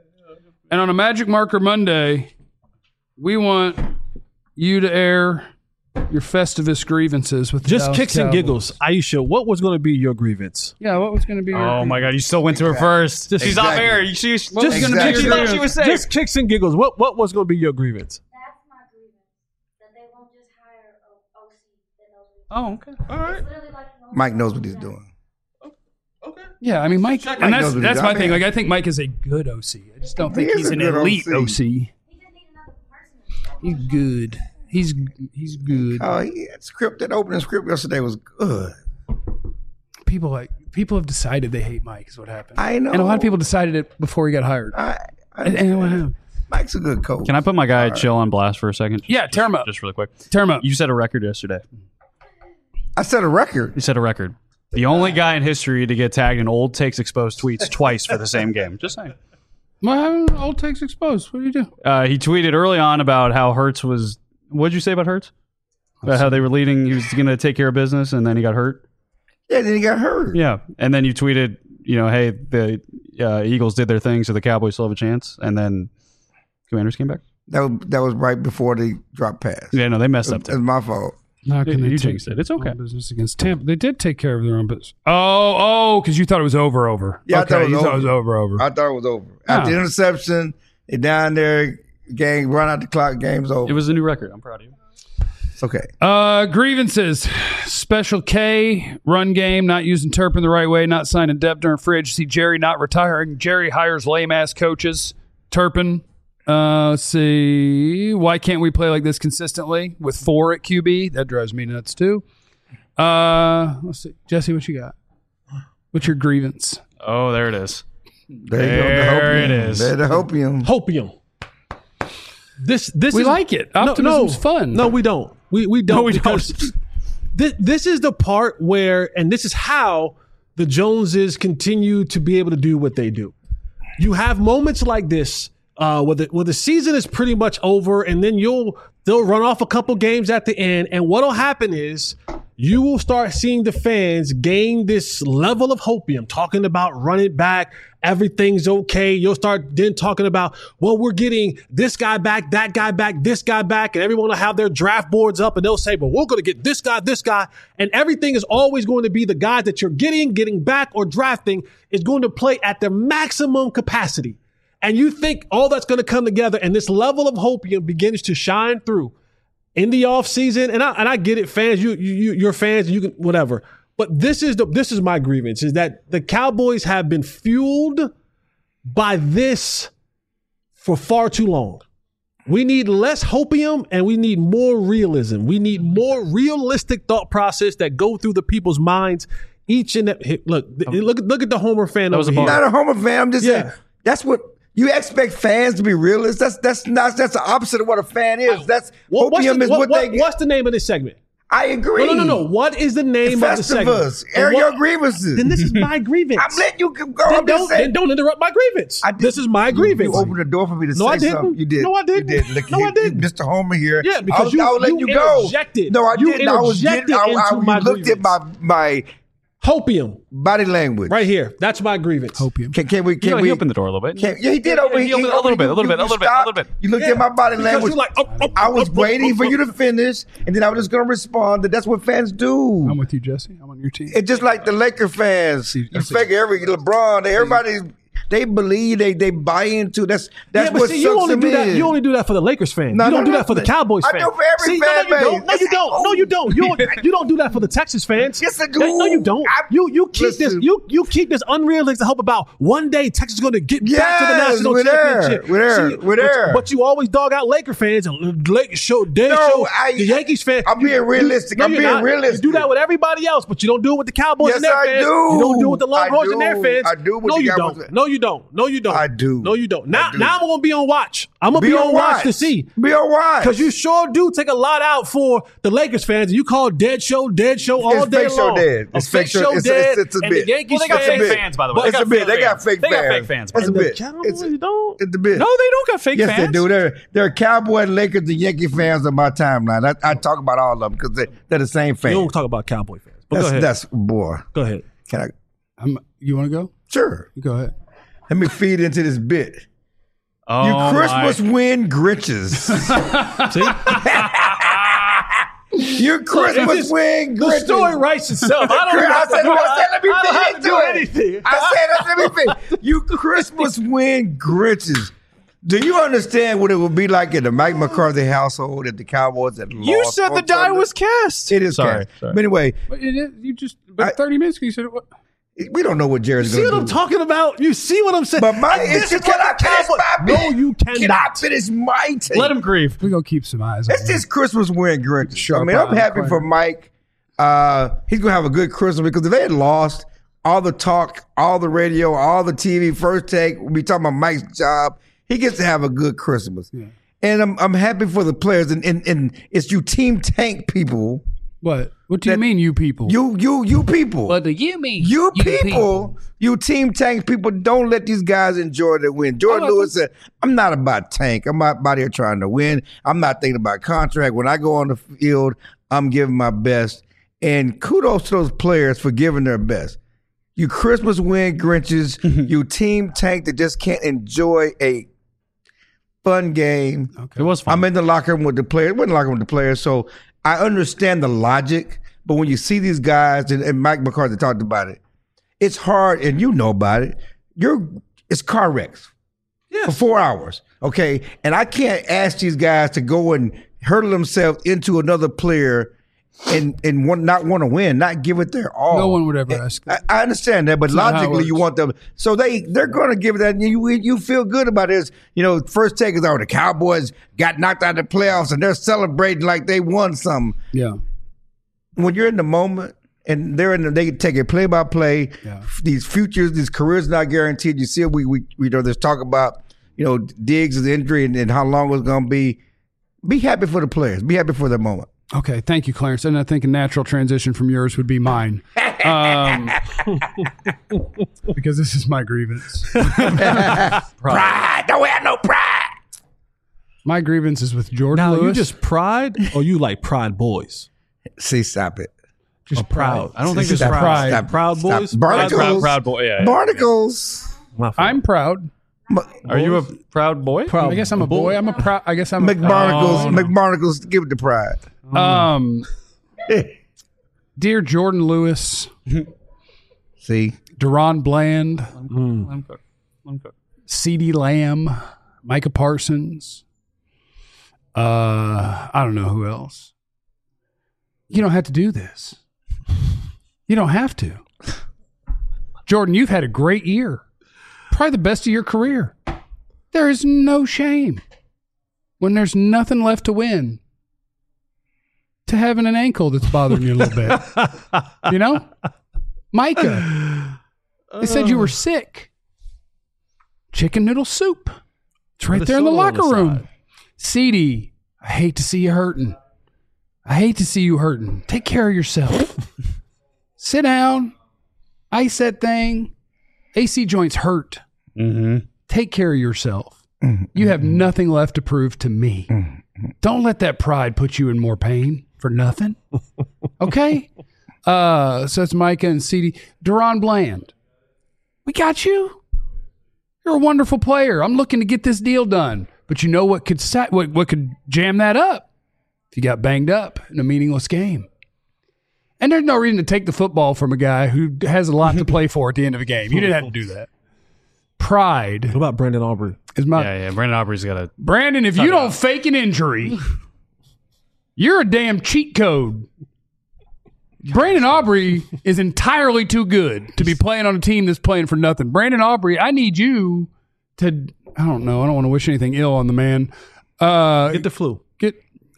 And on a Magic Marker Monday, we want you to air your Festivus grievances with the Just Dallas kicks and Cowboys. giggles. Aisha, what was going to be your grievance? Yeah, what was going to be your oh my God! You still went to her first. Just- She's off Exactly. air. You, she, she's What was Just- gonna be exactly. your she thought she was safe. Just kicks and giggles. What what was going to be your grievance? That's my grievance. That they won't just hire a O C that knows what he's Oh, okay. All right. doing. Literally like an O C. Mike knows what he's doing. Okay. Yeah, I mean, Mike, Mike and that's, knows what that's he's my doing. thing. Like, I think Mike is a good O C. I just don't think He he's is a an good elite O C. O C. He just needs another person. He's good. He's he's good. Oh, he, that script, that opening script yesterday was good. People like people have decided they hate Mike. Is what happened. I know. and a lot of people decided it before he got hired. I, I, And, and what happened? Mike's a good coach. Can I put my guy Chill on blast for a second? Yeah, just, tear him up. Just really quick. Tear him up. You set a record yesterday. I set a record. You set a record. The only guy in history to get tagged in old takes exposed tweets twice for the same game. Just saying. Well, old takes exposed. What do you do? Uh, he tweeted early on about how Hurts was. What did you say about Hurts? About how they were leading. He was going to take care of business, and then he got hurt. Yeah, then he got hurt. Yeah, and then you tweeted, you know, hey, the uh, Eagles did their thing, so the Cowboys still have a chance. And then Commanders came back. That was, that was right before they dropped pass. Yeah, no, they messed up It was too. my fault. Not You- gonna you take jinxed it. It's okay. on business against Tampa. They did take care of their own business. Oh, oh, because you thought it was over, over. Yeah, I okay, thought it was you over. thought it was over, over. I thought it was over. After Ah. the interception, they down there, game, run out the clock, game's over. It was a new record. I'm proud of you. It's okay. Uh, grievances. Special K, run game, not using Turpin the right way, not signing depth during fridge. See Jerry not retiring. Jerry hires lame ass coaches. Turpin, uh, let's see. Why can't we play like this consistently with four at Q B? That drives me nuts too. Uh, let's see. Jesse, what you got? What's your grievance? Oh, there it is. There, you go. There The it hopium. is. There, the hopium. Hopium. This this We is, like it. No, Optimism's no, fun. No, we don't. We we don't. No, we because This, this is the part where, and this is how the Joneses continue to be able to do what they do. You have moments like this uh, where, the, where the season is pretty much over, and then you'll they'll run off a couple games at the end, and what'll happen is you will start seeing the fans gain this level of hopium, talking about run it back, everything's okay. You'll start then talking about, well, we're getting this guy back, that guy back, this guy back, and everyone will have their draft boards up, and they'll say, but we're going to get this guy, this guy, and everything is always going to be the guys that you're getting, getting back, or drafting is going to play at their maximum capacity. And you think all that's going to come together, and this level of hopium begins to shine through in the offseason. And I and I get it, fans, you you you're fans, you can whatever. But this is the this is my grievance, is that the Cowboys have been fueled by this for far too long. We need less hopium and we need more realism. We need more realistic thought process that go through the people's minds each and every, look, look look at the Homer fan over here. I'm not a Homer fan. I'm just Yeah. saying that's what you expect fans to be realists. That's that's not that's the opposite of what a fan is. That's What- what's, hopium the, is what, what, what- they. what's the name of this segment? I agree. No, no, no, no. What is the name of the segment? Festivus. Air And what- your grievances. Then this is my grievance. I'm letting you go. Then I'm just don't, saying. then don't interrupt my grievance. I did- This is my You- grievance. You opened the door for me to No, say I didn't. something. You did. No, I didn't. You did. Look, No, you, I didn't. Mister Homer here. Yeah, because I was, you- I was letting you you go. interjected. No, I You didn't. I was interjected getting. I, I, into my you looked at my my Hopium, body language. right here. That's my grievance. Hopium. Can, can we? You Can know, we? he opened the door a little bit. Can, yeah, he did. Yeah, Over he he, opened it a over- little bit, a little you- bit, a you little bit, a stopped. little bit. You looked Yeah, at my body because language. you're like, oh, oh, I was oh, oh, waiting oh, for oh. you to finish, and then I was just going to respond. That that's what fans do. I'm with you, Jesse. I'm on your team. It's just like the Laker fans. See, You see. figure every LeBron, they, everybody, they believe, they they buy into. That's that's yeah, but what see, sucks you only them do that. in. You only do that for the Lakers fans. No, you don't no, do no. that for the Cowboys I fans. do for every see, fan no, no, you don't. No, base. you don't. No, you don't. You don't, you don't do that for the Texas fans. Yes, I do. No, you don't. I- you you keep Listen. this. You you keep this unrealistic hope about one day Texas is going to get back to the Yes, national we're there. championship. We're there. See, We're but- there. But you always dog out Laker fans and Lakers show dead No, show I- the Yankees fans. I'm being realistic. No, I'm you're being not. realistic. You do that with everybody else, but you don't do it with the Cowboys Yes, and their I fans. do. You don't do it with the I Longhorns and their do. fans. I do with no, the you Cowboys. don't. No, you don't. No, you don't. I do. No, you don't. Now, I do. now I'm gonna be on watch. I'm gonna be, on watch to see. Be on watch. Because you sure do take a lot out for the Lakers fans. And you call dead show, dead show all It's day fake show long. dead. A It's fake fake show- show it's a- dead. it's- it's a and bit. the Yankees Well, they got It's a fake bit. fans, by the way. It's They a got bit. fake They got fans. fake They got fans. fake fans. It's a And the bit. Cowboys It's, don't. it's a bit. No, they don't got fake Yes, fans. they do. They're, they're Cowboy, Lakers, and Yankee fans on my timeline. I, I talk about all of them because they, they're the same You fans. don't talk about Cowboy fans. But That's, go ahead. that's boy. go ahead. Can I? I'm, you want to go? Sure. Go ahead. Let me feed into this bit. Oh, You Christmas my. win Grinches. See? You Christmas just- win The Grinches. story writes itself. I don't I have to said, do, I said, let me I don't feed have to into do it. anything. I said, let me feed. You Christmas win Grinches. Do you understand what it would be like in the Mike McCarthy household at the Cowboys that You lost said the on die Sunday? was cast. It is Sorry, cast. sorry. But anyway, But it is, you just, but I- thirty minutes ago, you said it. What? we don't know what Jared's See going what to I'm do. talking about? You see what I'm saying? But my And this issue, is can what I the finish Cowboys- my bit? No, you Can I cannot. finish my take? Let him grieve. We're going to keep some eyes on It's it. this Christmas win Grinches. I Sharp mean, I'm eye happy corner. for Mike. Uh, he's going to have a good Christmas because if they had lost, all the talk, all the radio, all the T V, first take, we'll be talking about Mike's job. He gets to have a good Christmas. Yeah. And I'm I'm happy for the players. And, and, and it's you team tank people. What? What do you That- mean, you people? You, you, you people. What do you mean? You people, you team tank people, don't let these guys enjoy their win. Jordan Oh, Lewis said, I'm not about tank. I'm not about here trying to win. I'm not thinking about contract. When I go on the field, I'm giving my best. And kudos to those players for giving their best. You Christmas win Grinches, you team tank that just can't enjoy a fun game. It was fun. I'm in the locker room with the players. We're in the locker room with the players, so I understand the logic. But when you see these guys, and, and Mike McCarthy talked about it, it's hard, and you know about it. You're it's car wrecks for four hours, okay? And I can't ask these guys to go and hurtle themselves into another player and and want, not want to win, not give it their all. No one would ever ask I, that. I understand that, but not how it logically, you works. want them. So they they're going to give it that. And you you feel good about this. You know, first take is, oh, the Cowboys got knocked out of the playoffs, and they're celebrating like they won something. Yeah. When you're in the moment, and they're in, the, they take it play by play. Yeah. These futures, these careers not guaranteed. You see, we we we know there's talk about you know, Diggs' injury and, and how long it's going to be. Be happy for the players. Be happy for the moment. Okay, thank you, Clarence. And I think a natural transition from yours would be mine. Um, because this is my grievance. Pride. Don't have no pride. My grievance is with Jordan Now, Lewis. you just pride or you like Pride Boys? See, stop it. just proud. I don't think See, it's stop, pride. Stop, Proud stop. boys? Barnacles. Proud, proud boy. Yeah, yeah. Barnacles. My fault. I'm proud. Are you a proud boy? proud. I guess I'm a boy. I'm a proud. I guess I'm a McBarnacles. Oh, no. McBarnacles. Give it the pride. Um, dear Jordan Lewis, See, Deron Bland, Mm. Let him cook. Let him cook. CeeDee Lamb, Micah Parsons. Uh, I don't know who else. You don't have to do this. You don't have to. Jordan, you've had a great year. Probably the best of your career. There is no shame when there's nothing left to win to having an ankle that's bothering you a little bit. You know? Micah, they said you were sick. Chicken noodle soup. It's right Put a there in the soda on locker the room. side. CeeDee, I hate to see you hurting. I hate to see you hurting. Take care of yourself. Sit down. Ice that thing. A C joints hurt. Mm-hmm. Take care of yourself. You have nothing left to prove to me. Don't let that pride put you in more pain for nothing. Okay? Uh, so it's Micah and CeeDee. Deron Bland. We got you. You're a wonderful player. I'm looking to get this deal done. But you know what could sa- what, what could jam that up? If you got banged up in a meaningless game. And there's no reason to take the football from a guy who has a lot to play for at the end of a game. You didn't have to do that. Pride What about Brandon Aubrey? is my Yeah, yeah. Brandon Aubrey's got a. Brandon, if you don't fake an injury, you're a damn cheat code. Brandon Aubrey is entirely too good to be playing on a team that's playing for nothing. Brandon Aubrey, I need you to, I don't know, I don't want to wish anything ill on the man. Uh, Get the flu. get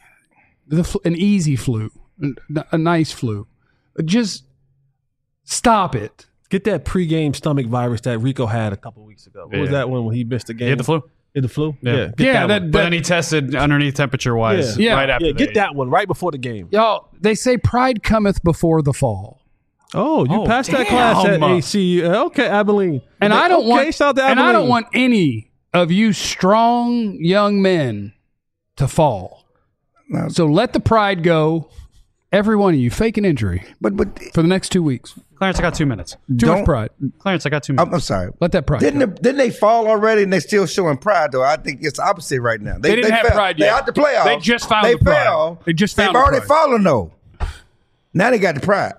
the fl- an easy flu, a, a nice flu. Just stop it. Get that pregame stomach virus that Rico had a couple weeks ago. What was Yeah. that one when he missed the game? He had the flu. He had the flu? Yeah. Get Yeah, that, that- one. But then he tested underneath temperature wise Yeah. right Yeah. after Yeah, get the- that one right before the game. Y'all, they say pride cometh before the fall. Oh, you Oh, passed that damn. class at A C. Uh, Okay, Abilene. And I don't okay, want shout out to and I don't Abilene. want any of you strong young men to fall. No. So let the pride go. Every one of you fake an injury but but for the next two weeks. Clarence, I got two minutes. Too Don't- much pride. Clarence, I got two minutes. I'm, I'm sorry. Let that pride Didn't go. the, didn't they fall already and they still showing pride though? I think it's the opposite right now. They didn't have fell. pride They yet. out the playoffs. They just found They the pride. fell. They just found They've the already pride. fallen though. Now they got the pride.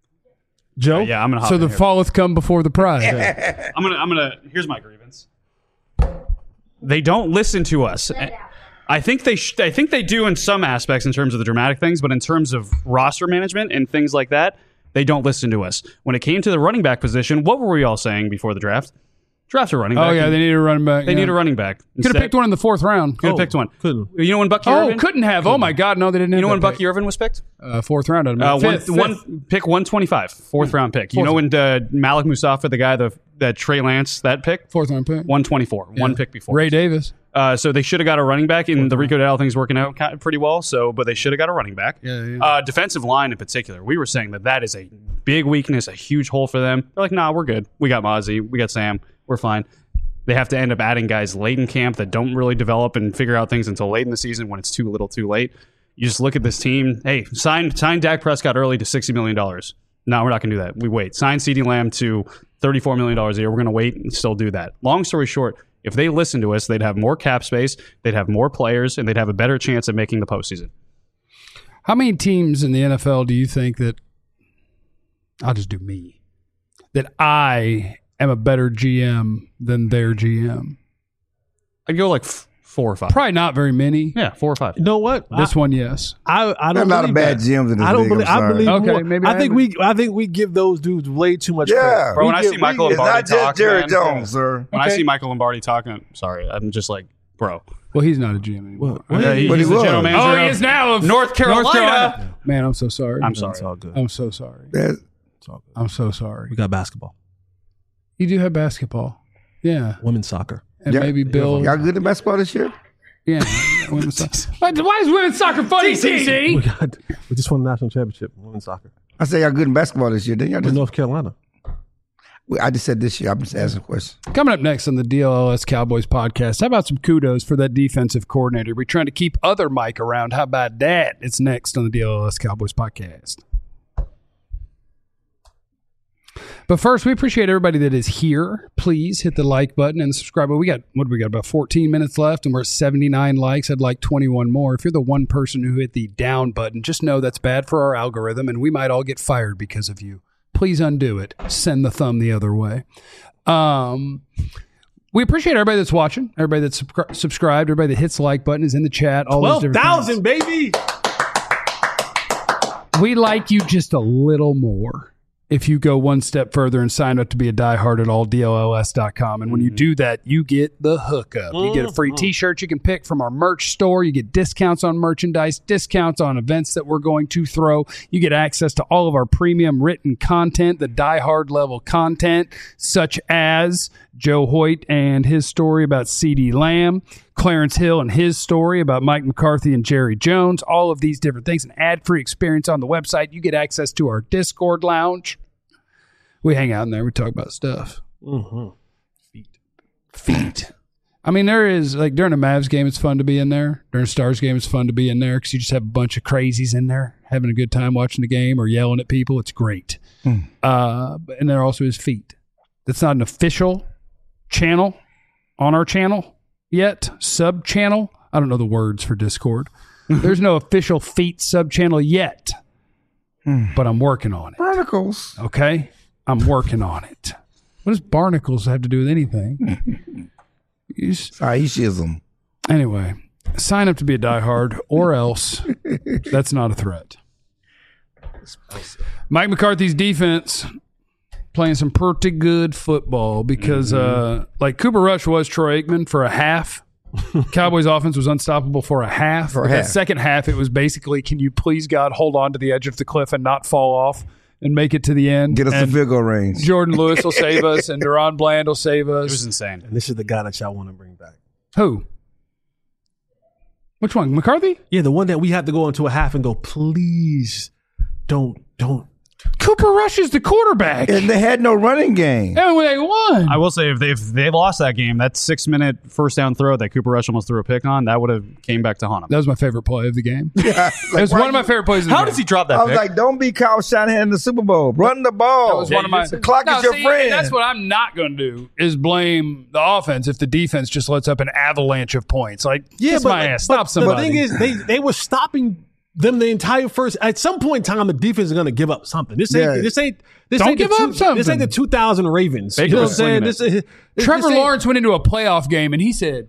Joe? yeah, I'm gonna. Hop So in the here. falleth come before the pride. I'm gonna. I'm gonna. Here's my grievance. They don't listen to us. I think they. Sh- I think they do in some aspects in terms of the dramatic things, but in terms of roster management and things like that, they don't listen to us. When it came to the running back position, what were we all saying before the draft? Draft a running back. Oh yeah, they need a running back. They need a running back. Could have picked one in the fourth round. Could have picked one. Couldn't. You know when Bucky Oh, Irvin? couldn't have. Oh my God, no, they didn't. You know have when that Bucky Irvin was picked? pick. Uh, fourth round. I'd Uh, imagine. one, Fifth, one fifth. pick one twenty-five, fourth round pick. You know when uh, Malik Mustafa, the guy, the that Trey Lance, that pick, fourth round pick. one twenty-four, one pick before. Ray Davis. Uh, so they should have got a running back, and the Rico Dowdle thing's working out kind of pretty well. So, but they should have got a running back. Yeah, yeah. Uh, defensive line in particular, we were saying that that is a big weakness, a huge hole for them. They're like, nah, we're good. We got Mozzie, we got Sam, we're fine. They have to end up adding guys late in camp that don't really develop and figure out things until late in the season when it's too little, too late. You just look at this team. Hey, sign sign Dak Prescott early to sixty million dollars. No, we're not going to do that. We wait. Sign CeeDee Lamb to thirty-four million dollars a year. We're going to wait and still do that. Long story short, if they listen to us, they'd have more cap space, they'd have more players, and they'd have a better chance at making the postseason. How many teams in the N F L do you think that? I'll just do me. That I am a better G M than their G M. I'd go like f- four or five. Probably not very many. Yeah, four or five. You know what? This one, yes. I, I There are don't a lot of believe bad that. G Ms in this I don't league, I'm believe. I sorry. believe. Okay, more. maybe I I think agree. we. I think we give those dudes way too much Yeah. credit. Bro, We when I give- see Michael we It's give- Lombardi not just talk, Jerry man. Jones, sir. When I Okay. see Michael Lombardi talking, sorry, I'm just like, bro. Well, he's not a G M anymore. What? Yeah, he- But he's he the general was. manager. Oh, he of is now of North Carolina. North Carolina. Man, I'm so sorry. I'm It's sorry. all good. I'm so sorry. That's- It's all good. I'm so sorry. We got basketball, You do have basketball. Yeah. women's soccer. and Yeah. maybe Bill. Y'all good in basketball this year? Yeah. women's soccer. Why why is women's soccer funny, C C? We got we just won the national championship in women's soccer I say y'all good in basketball this year. Then y'all in just, North Carolina. I just said this year. I'm just asking a question. Coming up next on the D L L S Cowboys podcast, how about some kudos for that defensive coordinator? We're trying to keep other Mike around. How about that? It's next on the D L L S Cowboys podcast. But first, we appreciate everybody that is here. Please hit the like button and subscribe. But we got, what do we got, about fourteen minutes left, and we're at seventy-nine likes. I'd like twenty-one more. If you're the one person who hit the down button, just know that's bad for our algorithm, and we might all get fired because of you. Please undo it. Send the thumb the other way. Um, we appreciate everybody that's watching, everybody that's subscri- subscribed, everybody that hits the like button, is in the chat. All those Twelve different thousand, things. baby. We like you just a little more if you go one step further and sign up to be a diehard at all D L L S dot com. And when you do that, you get the hookup. You get a free t-shirt you can pick from our merch store. You get discounts on merchandise, discounts on events that we're going to throw. You get access to all of our premium written content, the diehard level content, such as Joe Hoyt and his story about CeeDee Lamb, Clarence Hill and his story about Mike McCarthy and Jerry Jones, all of these different things, an ad-free experience on the website. You get access to our Discord lounge. We hang out in there. We talk about stuff. Mm-hmm. Feet. Feet. I mean, there is, like, during a Mavs game, it's fun to be in there. During a Stars game, it's fun to be in there because you just have a bunch of crazies in there having a good time watching the game or yelling at people. It's great. Mm. Uh, and there also is Feet. That's not an official channel on our channel yet. Sub-channel. I don't know the words for Discord. There's no official Feet sub-channel yet. Mm. But I'm working on it. Barnacles. Okay? I'm working on it. What does barnacles have to do with anything? You just- Sorry, he shizzle. anyway, sign up to be a diehard or else that's not a threat. Mike McCarthy's defense playing some pretty good football because Mm-hmm. uh, like Cooper Rush was Troy Aikman for a half. Cowboys offense was unstoppable for a half. For a that half. second half, it was basically, can you please, God, hold on to the edge of the cliff and not fall off and make it to the end? Get us and the field goal range. Jordan Lewis will save us, and Deron Bland will save It us. was insane. And this is the guy that y'all want to bring back. Who? Which one? McCarthy? Yeah, the one that we have to go into a half and go, please don't, don't. Cooper Rush is the quarterback. And they had no running game. And when they won. I will say, if they if they lost that game, that six minute first down throw that Cooper Rush almost threw a pick on, that would have came back to haunt him. That was my favorite play of the game. Yeah, It like, was why one of my you- favorite plays of the How game. does he drop that I was pick? like, don't be Kyle Shanahan in the Super Bowl. Run the ball. That was one of my. The clock No, is your see, friend. and that's what I'm not going to do is blame the offense if the defense just lets up an avalanche of points. Like, kiss my ass. Stop but somebody. The thing is, they, they were stopping them the entire first. At some point in time, the defense is going to give up something. This ain't. Yeah. This ain't. This Don't ain't the give up two- something. This ain't the two thousand Ravens. Baker you know what I'm was saying? slinging This, is- this, Trevor this ain't- Lawrence went into a playoff game and he said,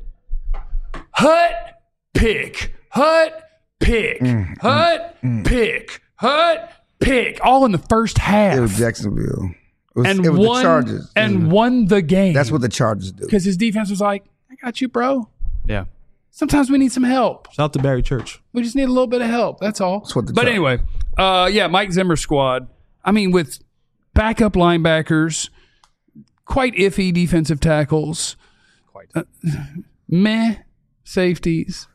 "Hut, pick, hut, pick, Mm, hut, pick, hut, pick," all in the first half, It was Jacksonville. It was, and it was won the Chargers. and Mhm. won the game. That's what the Chargers do. because his defense was like, "I got you, bro. Yeah. Sometimes we need some help. Shout out to Barry Church. We just need a little bit of help. That's all." That's what the but Char- anyway, uh, yeah, Mike Zimmer's squad. I mean, with backup linebackers, quite iffy defensive tackles, Quite. uh, meh safeties,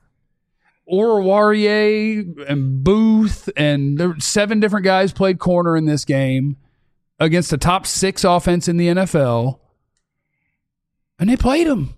Oruwariye and Booth, and there were seven different guys played corner in this game against the top six offense in the N F L, and they played them.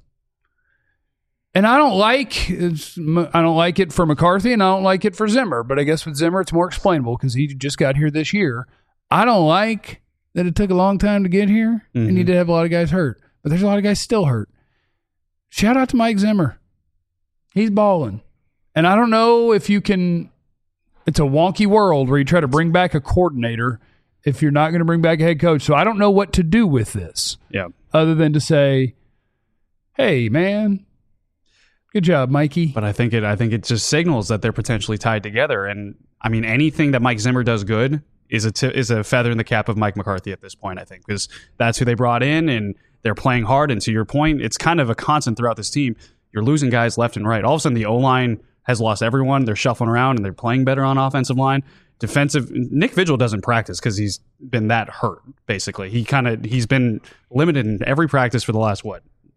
And I don't like it's, I don't like it for McCarthy, and I don't like it for Zimmer. But I guess with Zimmer, it's more explainable because he just got here this year. I don't like that it took a long time to get here, Mm-hmm. and he did have a lot of guys hurt. But there's a lot of guys still hurt. Shout out to Mike Zimmer. He's balling. And I don't know if you can – it's a wonky world where you try to bring back a coordinator if you're not going to bring back a head coach. So I don't know what to do with this Yeah. other than to say, hey, man, good job, Mikey. But I think it I think it just signals that they're potentially tied together. And I mean, anything that Mike Zimmer does good is a t- is a feather in the cap of Mike McCarthy at this point, I think, because that's who they brought in and they're playing hard. And to your point, it's kind of a constant throughout this team. You're losing guys left and right. All of a sudden, the O-line has lost everyone. They're shuffling around and they're playing better on offensive line. Defensive, Nick Vigil doesn't practice because he's been that hurt, basically. He kind of, he's been limited in every practice for the last, what,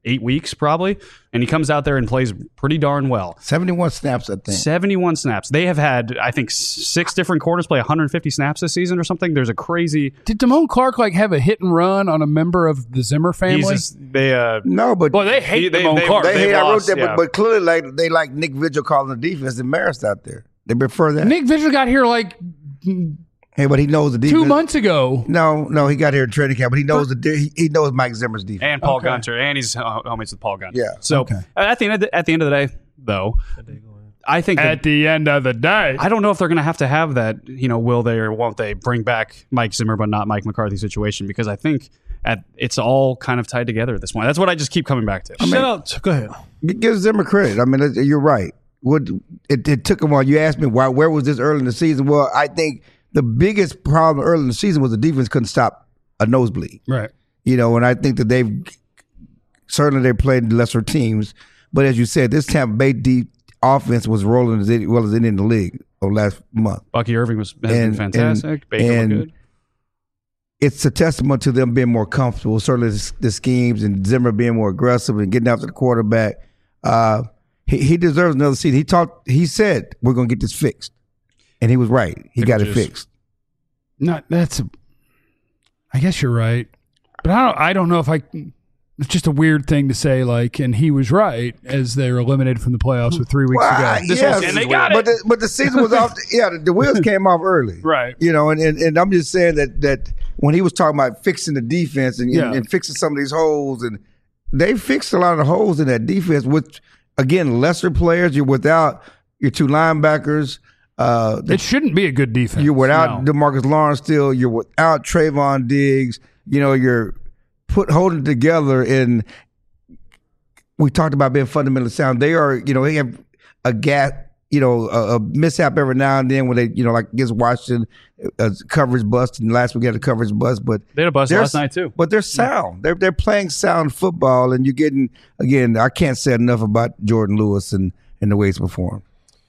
eight weeks probably, and he comes out there and plays pretty darn well. seventy-one snaps, I think. seventy-one snaps. They have had, I think, six different quarters play one hundred fifty snaps this season or something. There's a crazy. Did Damone Clark like have a hit and run on a member of the Zimmer family? He's just, they uh, No, but Well, they hate They- Damone they- Clark. they they've hate. I wrote lost, that, yeah. but, but clearly, like they like Nick Vigil calling the defense embarrassed out there. They prefer that. Nick Vigil got here like hey, but he knows the defense. two months ago. No, no, he got here in training camp, but he knows the de- he, he knows Mike Zimmer's defense. and Paul Okay. Gunter, and he's uh, homies with Paul Gunter. Yeah. So Okay. at the end of the, at the end of the day, though, I think that- At the end of the day, I don't know if they're going to have to have that. You know, will they or won't they bring back Mike Zimmer but not Mike McCarthy situation? Because I think at it's all kind of tied together at this point. That's what I just keep coming back to. Shout out. Go ahead. Give Zimmer credit. I mean, it- you're right. What it, it took him while you asked me why where was this early in the season? Well, I think the biggest problem early in the season was the defense couldn't stop a nosebleed. right? You know, and I think that they've certainly they played lesser teams, but as you said, this Tampa Bay deep offense was rolling as well as any in the league over last month. Bucky Irving was has And- been fantastic. and- Baker and- looked good. It's a testament to them being more comfortable, certainly the, the schemes and Zimmer being more aggressive and getting after the quarterback. Uh, he, he deserves another season. He talked. He said we're going to get this fixed, and he was right. He Pickle got it juice. fixed. Not that's. A, I guess you're right, but I don't. I don't know if I. It's just a weird thing to say. Like, and he was right as they were eliminated from the playoffs with three weeks Well, to go. I- This yes, whole season's And they got but the, but the season was off. Yeah, the, the wheels came off early. Right. You know, and, and, and I'm just saying that that when he was talking about fixing the defense and, Yeah. and, and fixing some of these holes, and they fixed a lot of the holes in that defense with, again, lesser players. You're without your two linebackers. Uh, It shouldn't be a good defense. You're without No. DeMarcus Lawrence still. You're without Trayvon Diggs. You know, you're put holding together. And we talked about being fundamentally sound. They are, you know, they have a gap, you know, a, a mishap every now and then when they, you know, like against Washington, a coverage bust. And last week had a coverage bust. But They had a bust they're- last night too. But they're sound. They're they're playing sound football, and you're getting again. I can't say enough about Jordan Lewis and and the way he's performed.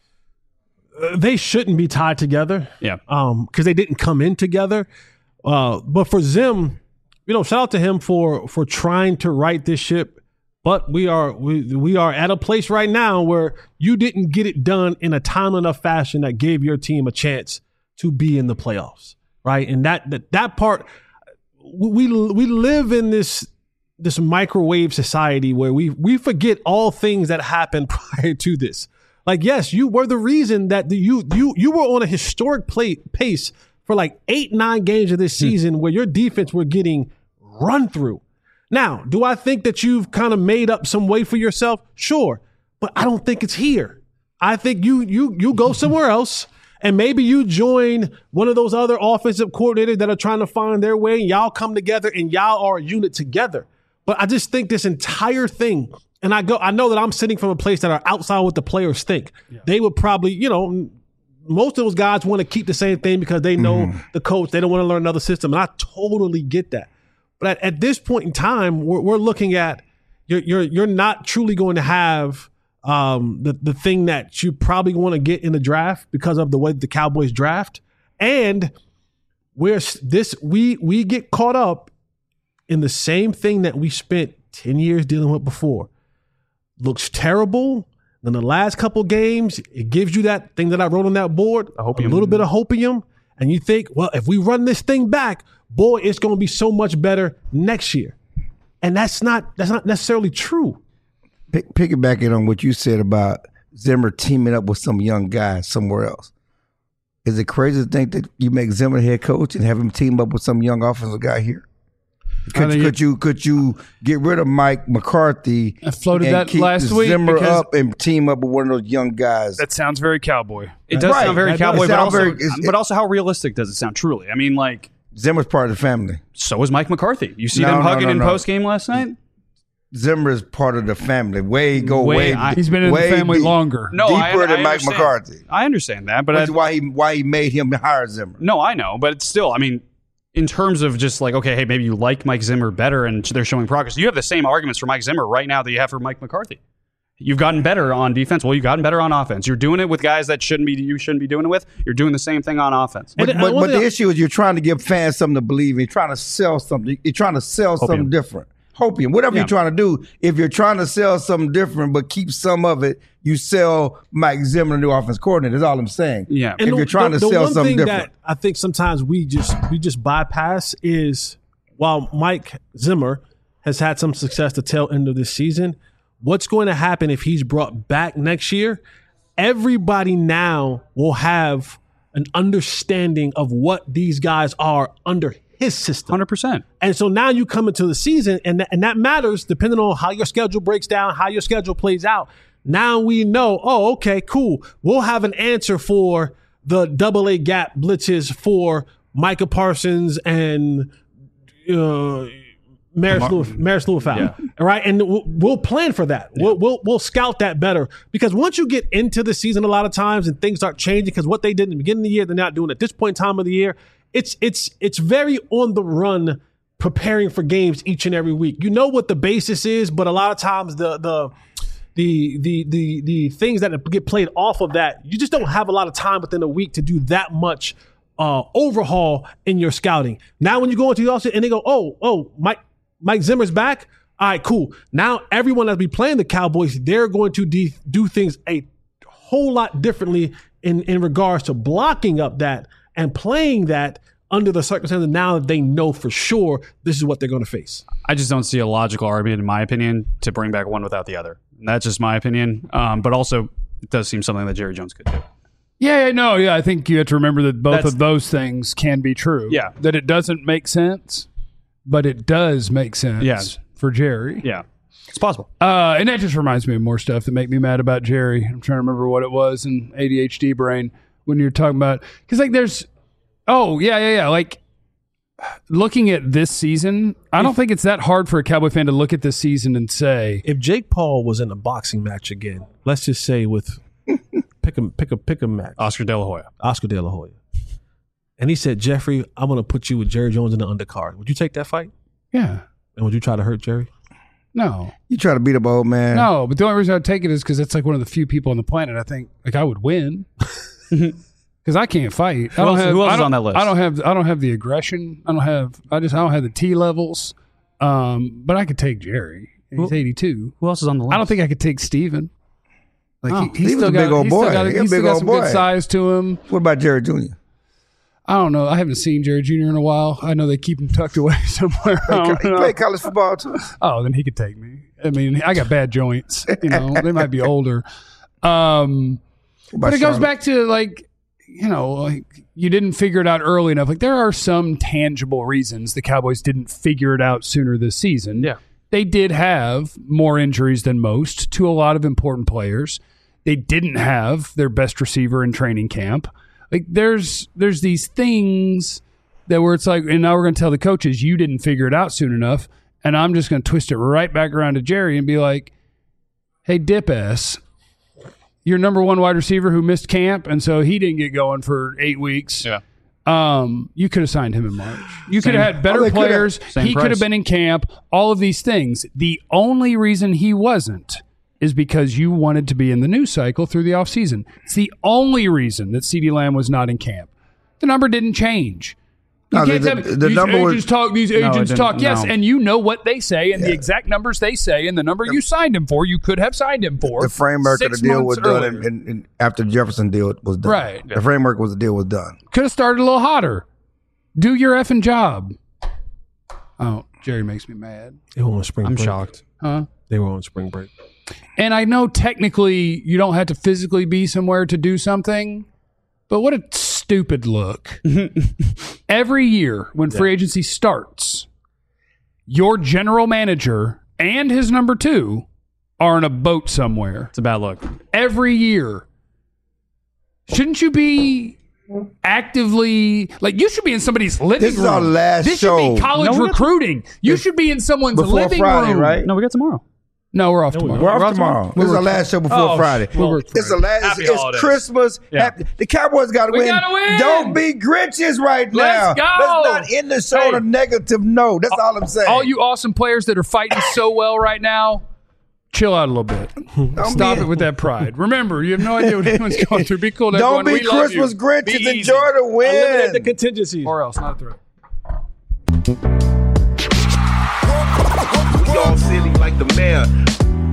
Uh, they shouldn't be tied together. Yeah. Um, because they didn't come in together. Uh, but for Zim, you know, shout out to him for for trying to right this ship. But we are we we are at a place right now where you didn't get it done in a timely enough fashion that gave your team a chance to be in the playoffs, right? And that that, that part, we we live in this this microwave society where we we forget all things that happened prior to this. Like, yes, you were the reason that the, you you you were on a historic play, pace for like eight nine games of this season where your defense were getting run through. Now, do I think that you've kind of made up some way for yourself? Sure, but I don't think it's here. I think you you you go somewhere else, and maybe you join one of those other offensive coordinators that are trying to find their way, and y'all come together and y'all are a unit together. But I just think this entire thing, and I go, I know that I'm sitting from a place that are outside what the players think. Yeah. They would probably, you know, most of those guys want to keep the same thing because they know mm. the coach. They don't want to learn another system, and I totally get that. But at, at this point in time, we're, we're looking at you're you're you're not truly going to have um, the the thing that you probably want to get in the draft because of the way the Cowboys draft, and we're this we we get caught up in the same thing that we spent ten years dealing with before. Looks terrible. Then the last couple games, it gives you that thing that I wrote on that board, a little bit of hopium, and you think, well, if we run this thing back, boy, it's going to be so much better next year. And that's not that's not necessarily true. Pick, piggybacking on what you said about Zimmer teaming up with some young guy somewhere else. Is it crazy to think that you make Zimmer head coach and have him team up with some young offensive guy here? Could, could it, you could you get rid of Mike McCarthy? I floated and that keep last week. Zimmer up and team up with one of those young guys. That sounds very cowboy. It does Right. sound very That cowboy, does but sound also, very- it's- but also how realistic does it sound? Truly, I mean, like Zimmer's part of the family. so is Mike McCarthy. You see No, them no, hugging no, in no. post game last night. Zimmer is part of the family. Way go Way- way. I- He's been in the way family deep. longer. No, I, Deeper I than Mike understand. McCarthy. I understand that, but Which is I, why he why he made him hire Zimmer. no, I know, but it's still, I mean, in terms of just like, okay, hey, maybe you like Mike Zimmer better and they're showing progress. You have the same arguments for Mike Zimmer right now that you have for Mike McCarthy. You've gotten better on defense. Well, you've gotten better on offense. You're doing it with guys that shouldn't be. You shouldn't be doing it with. You're doing the same thing on offense. But, And, uh, but, one but thing the I- issue is you're trying to give fans something to believe in. You're trying to sell something. You're trying to sell something different. hopium, whatever Yeah. you're trying to do. If you're trying to sell something different but keep some of it, you sell Mike Zimmer, the new offense coordinator. That's all I'm saying. Yeah. If the, you're trying the, to the sell one something thing different. that I think sometimes we just we just bypass is while Mike Zimmer has had some success the tail end of this season, what's going to happen if he's brought back next year? Everybody now will have an understanding of what these guys are under his system. one hundred percent. And so now you come into the season, and, th- and that matters depending on how your schedule breaks down, how your schedule plays out. Now we know, oh, okay, cool. We'll have an answer for the double A gap blitzes for Micah Parsons and uh, Maris Lewis, Maris Lewis out. All right. And we'll, we'll plan for that. We'll, we'll, we'll scout that better because once you get into the season a lot of times and things start changing because what they did in the beginning of the year, they're not doing at this point in time of the year. It's, it's, it's very on the run preparing for games each and every week. You know what the basis is, but a lot of times the, the, the, the, the, the things that get played off of that, you just don't have a lot of time within a week to do that much uh, overhaul in your scouting. Now, when you go into the offseason and they go, oh, oh, Mike, Mike Zimmer's back. All right, cool. Now everyone that's be playing the Cowboys, they're going to de- do things a whole lot differently in, in regards to blocking up that and playing that under the circumstances now that they know for sure this is what they're going to face. I just don't see a logical argument, in my opinion, to bring back one without the other. That's just my opinion. Um, but also, it does seem something that Jerry Jones could do. Yeah, no, yeah. I think you have to remember that both That's- of those things can be true. Yeah. That it doesn't make sense, but it does make sense Yeah. for Jerry. Yeah, it's possible. Uh, and that just reminds me of more stuff that make me mad about Jerry. I'm trying to remember what it was in A D H D brain when you're talking about, because like there's, oh yeah, yeah, yeah. Like looking at this season, I don't think it's that hard for a Cowboy fan to look at this season and say, If Jake Paul was in a boxing match again, let's just say with pick a pick a pick a match, Oscar De La Hoya. Oscar De La Hoya, and he said, Jeffrey, I'm going to put you with Jerry Jones in the undercard. Would you take that fight? yeah, And would you try to hurt Jerry? no, You try to beat up an old man. no. But the only reason I'd take it is because it's like one of the few people on the planet I think like I would win. Because I can't fight. I don't else- have, who else I is don't- on that list? I don't have. I don't have the aggression. I don't have. I just. I don't have the T levels. Um, but I could take Jerry. He's Who- eighty-two. Who else is on the list? I don't think I could take Steven. Like Oh, he, he's Steven's still a got, big old he's still boy. got, He's a he's still big got old some boy. good size to him. What about Jerry Junior? I don't know. I haven't seen Jerry Junior in a while. I know they keep him tucked away somewhere. I He don't know. played college football too. Oh, then he could take me. I mean, I got bad joints. You know, they might be older. Um, What but about it goes Charlotte? back to like, you know, like you didn't figure it out early enough. Like there are some tangible reasons the Cowboys didn't figure it out sooner this season. Yeah. They did have more injuries than most to a lot of important players. They didn't have their best receiver in training camp. Like there's there's these things that where it's like, and now we're going to tell the coaches you didn't figure it out soon enough, and I'm just going to twist it right back around to Jerry and be like, hey, dip ass, your number one wide receiver who missed camp, and so he didn't get going for eight weeks. Yeah. Um, you could have signed him in March. You could Same- have had better Oh, they coulda- players. Same He could have price. been in camp. All of these things. The only reason he wasn't is because you wanted to be in the news cycle through the offseason. It's the only reason that CeeDee Lamb was not in camp. The number didn't change. You No, can't the- tell me, the- the these number was- agents talk. These it agents didn't- talk. Yes, no. and you know what they say, and the exact numbers they say, and the number you signed him for, you could have signed him for. The framework of six the deal months was done, earlier. and, and, and after the Jefferson deal was done. Right. The framework was the deal was done. Could have started a little hotter. Do your effing job. Oh, Jerry makes me mad. They were on spring I'm break. shocked. Huh? They were on spring break. And I know technically you don't have to physically be somewhere to do something, but what a stupid look. Every year when free agency starts, your general manager and his number two are on a boat somewhere. It's a bad look. Every year. Shouldn't you be actively, like, you should be in somebody's living This is room. our last this show. should be college No, we got to- recruiting. You should be in someone's Before living Friday, room. right? No, we got tomorrow. No, we're off tomorrow. We're off tomorrow. This is our last show before Oh, Friday. well, we're- It's the last. Happy It's holidays. Christmas. Yeah. Happy- the Cowboys got to We win. gotta win. Don't be Grinches right now. Let's go. Let's not end the show on a negative note. That's all I'm saying. All you awesome players that are fighting so well right now, chill out a little bit. Don't Stop be- it with that pride. Remember, you have no idea what anyone's going through. Be cool to Don't everyone. be We love Christmas you. Grinches. Be easy. Enjoy the Eliminate the win. contingencies. Or else, not a threat. We all silly like the mayor.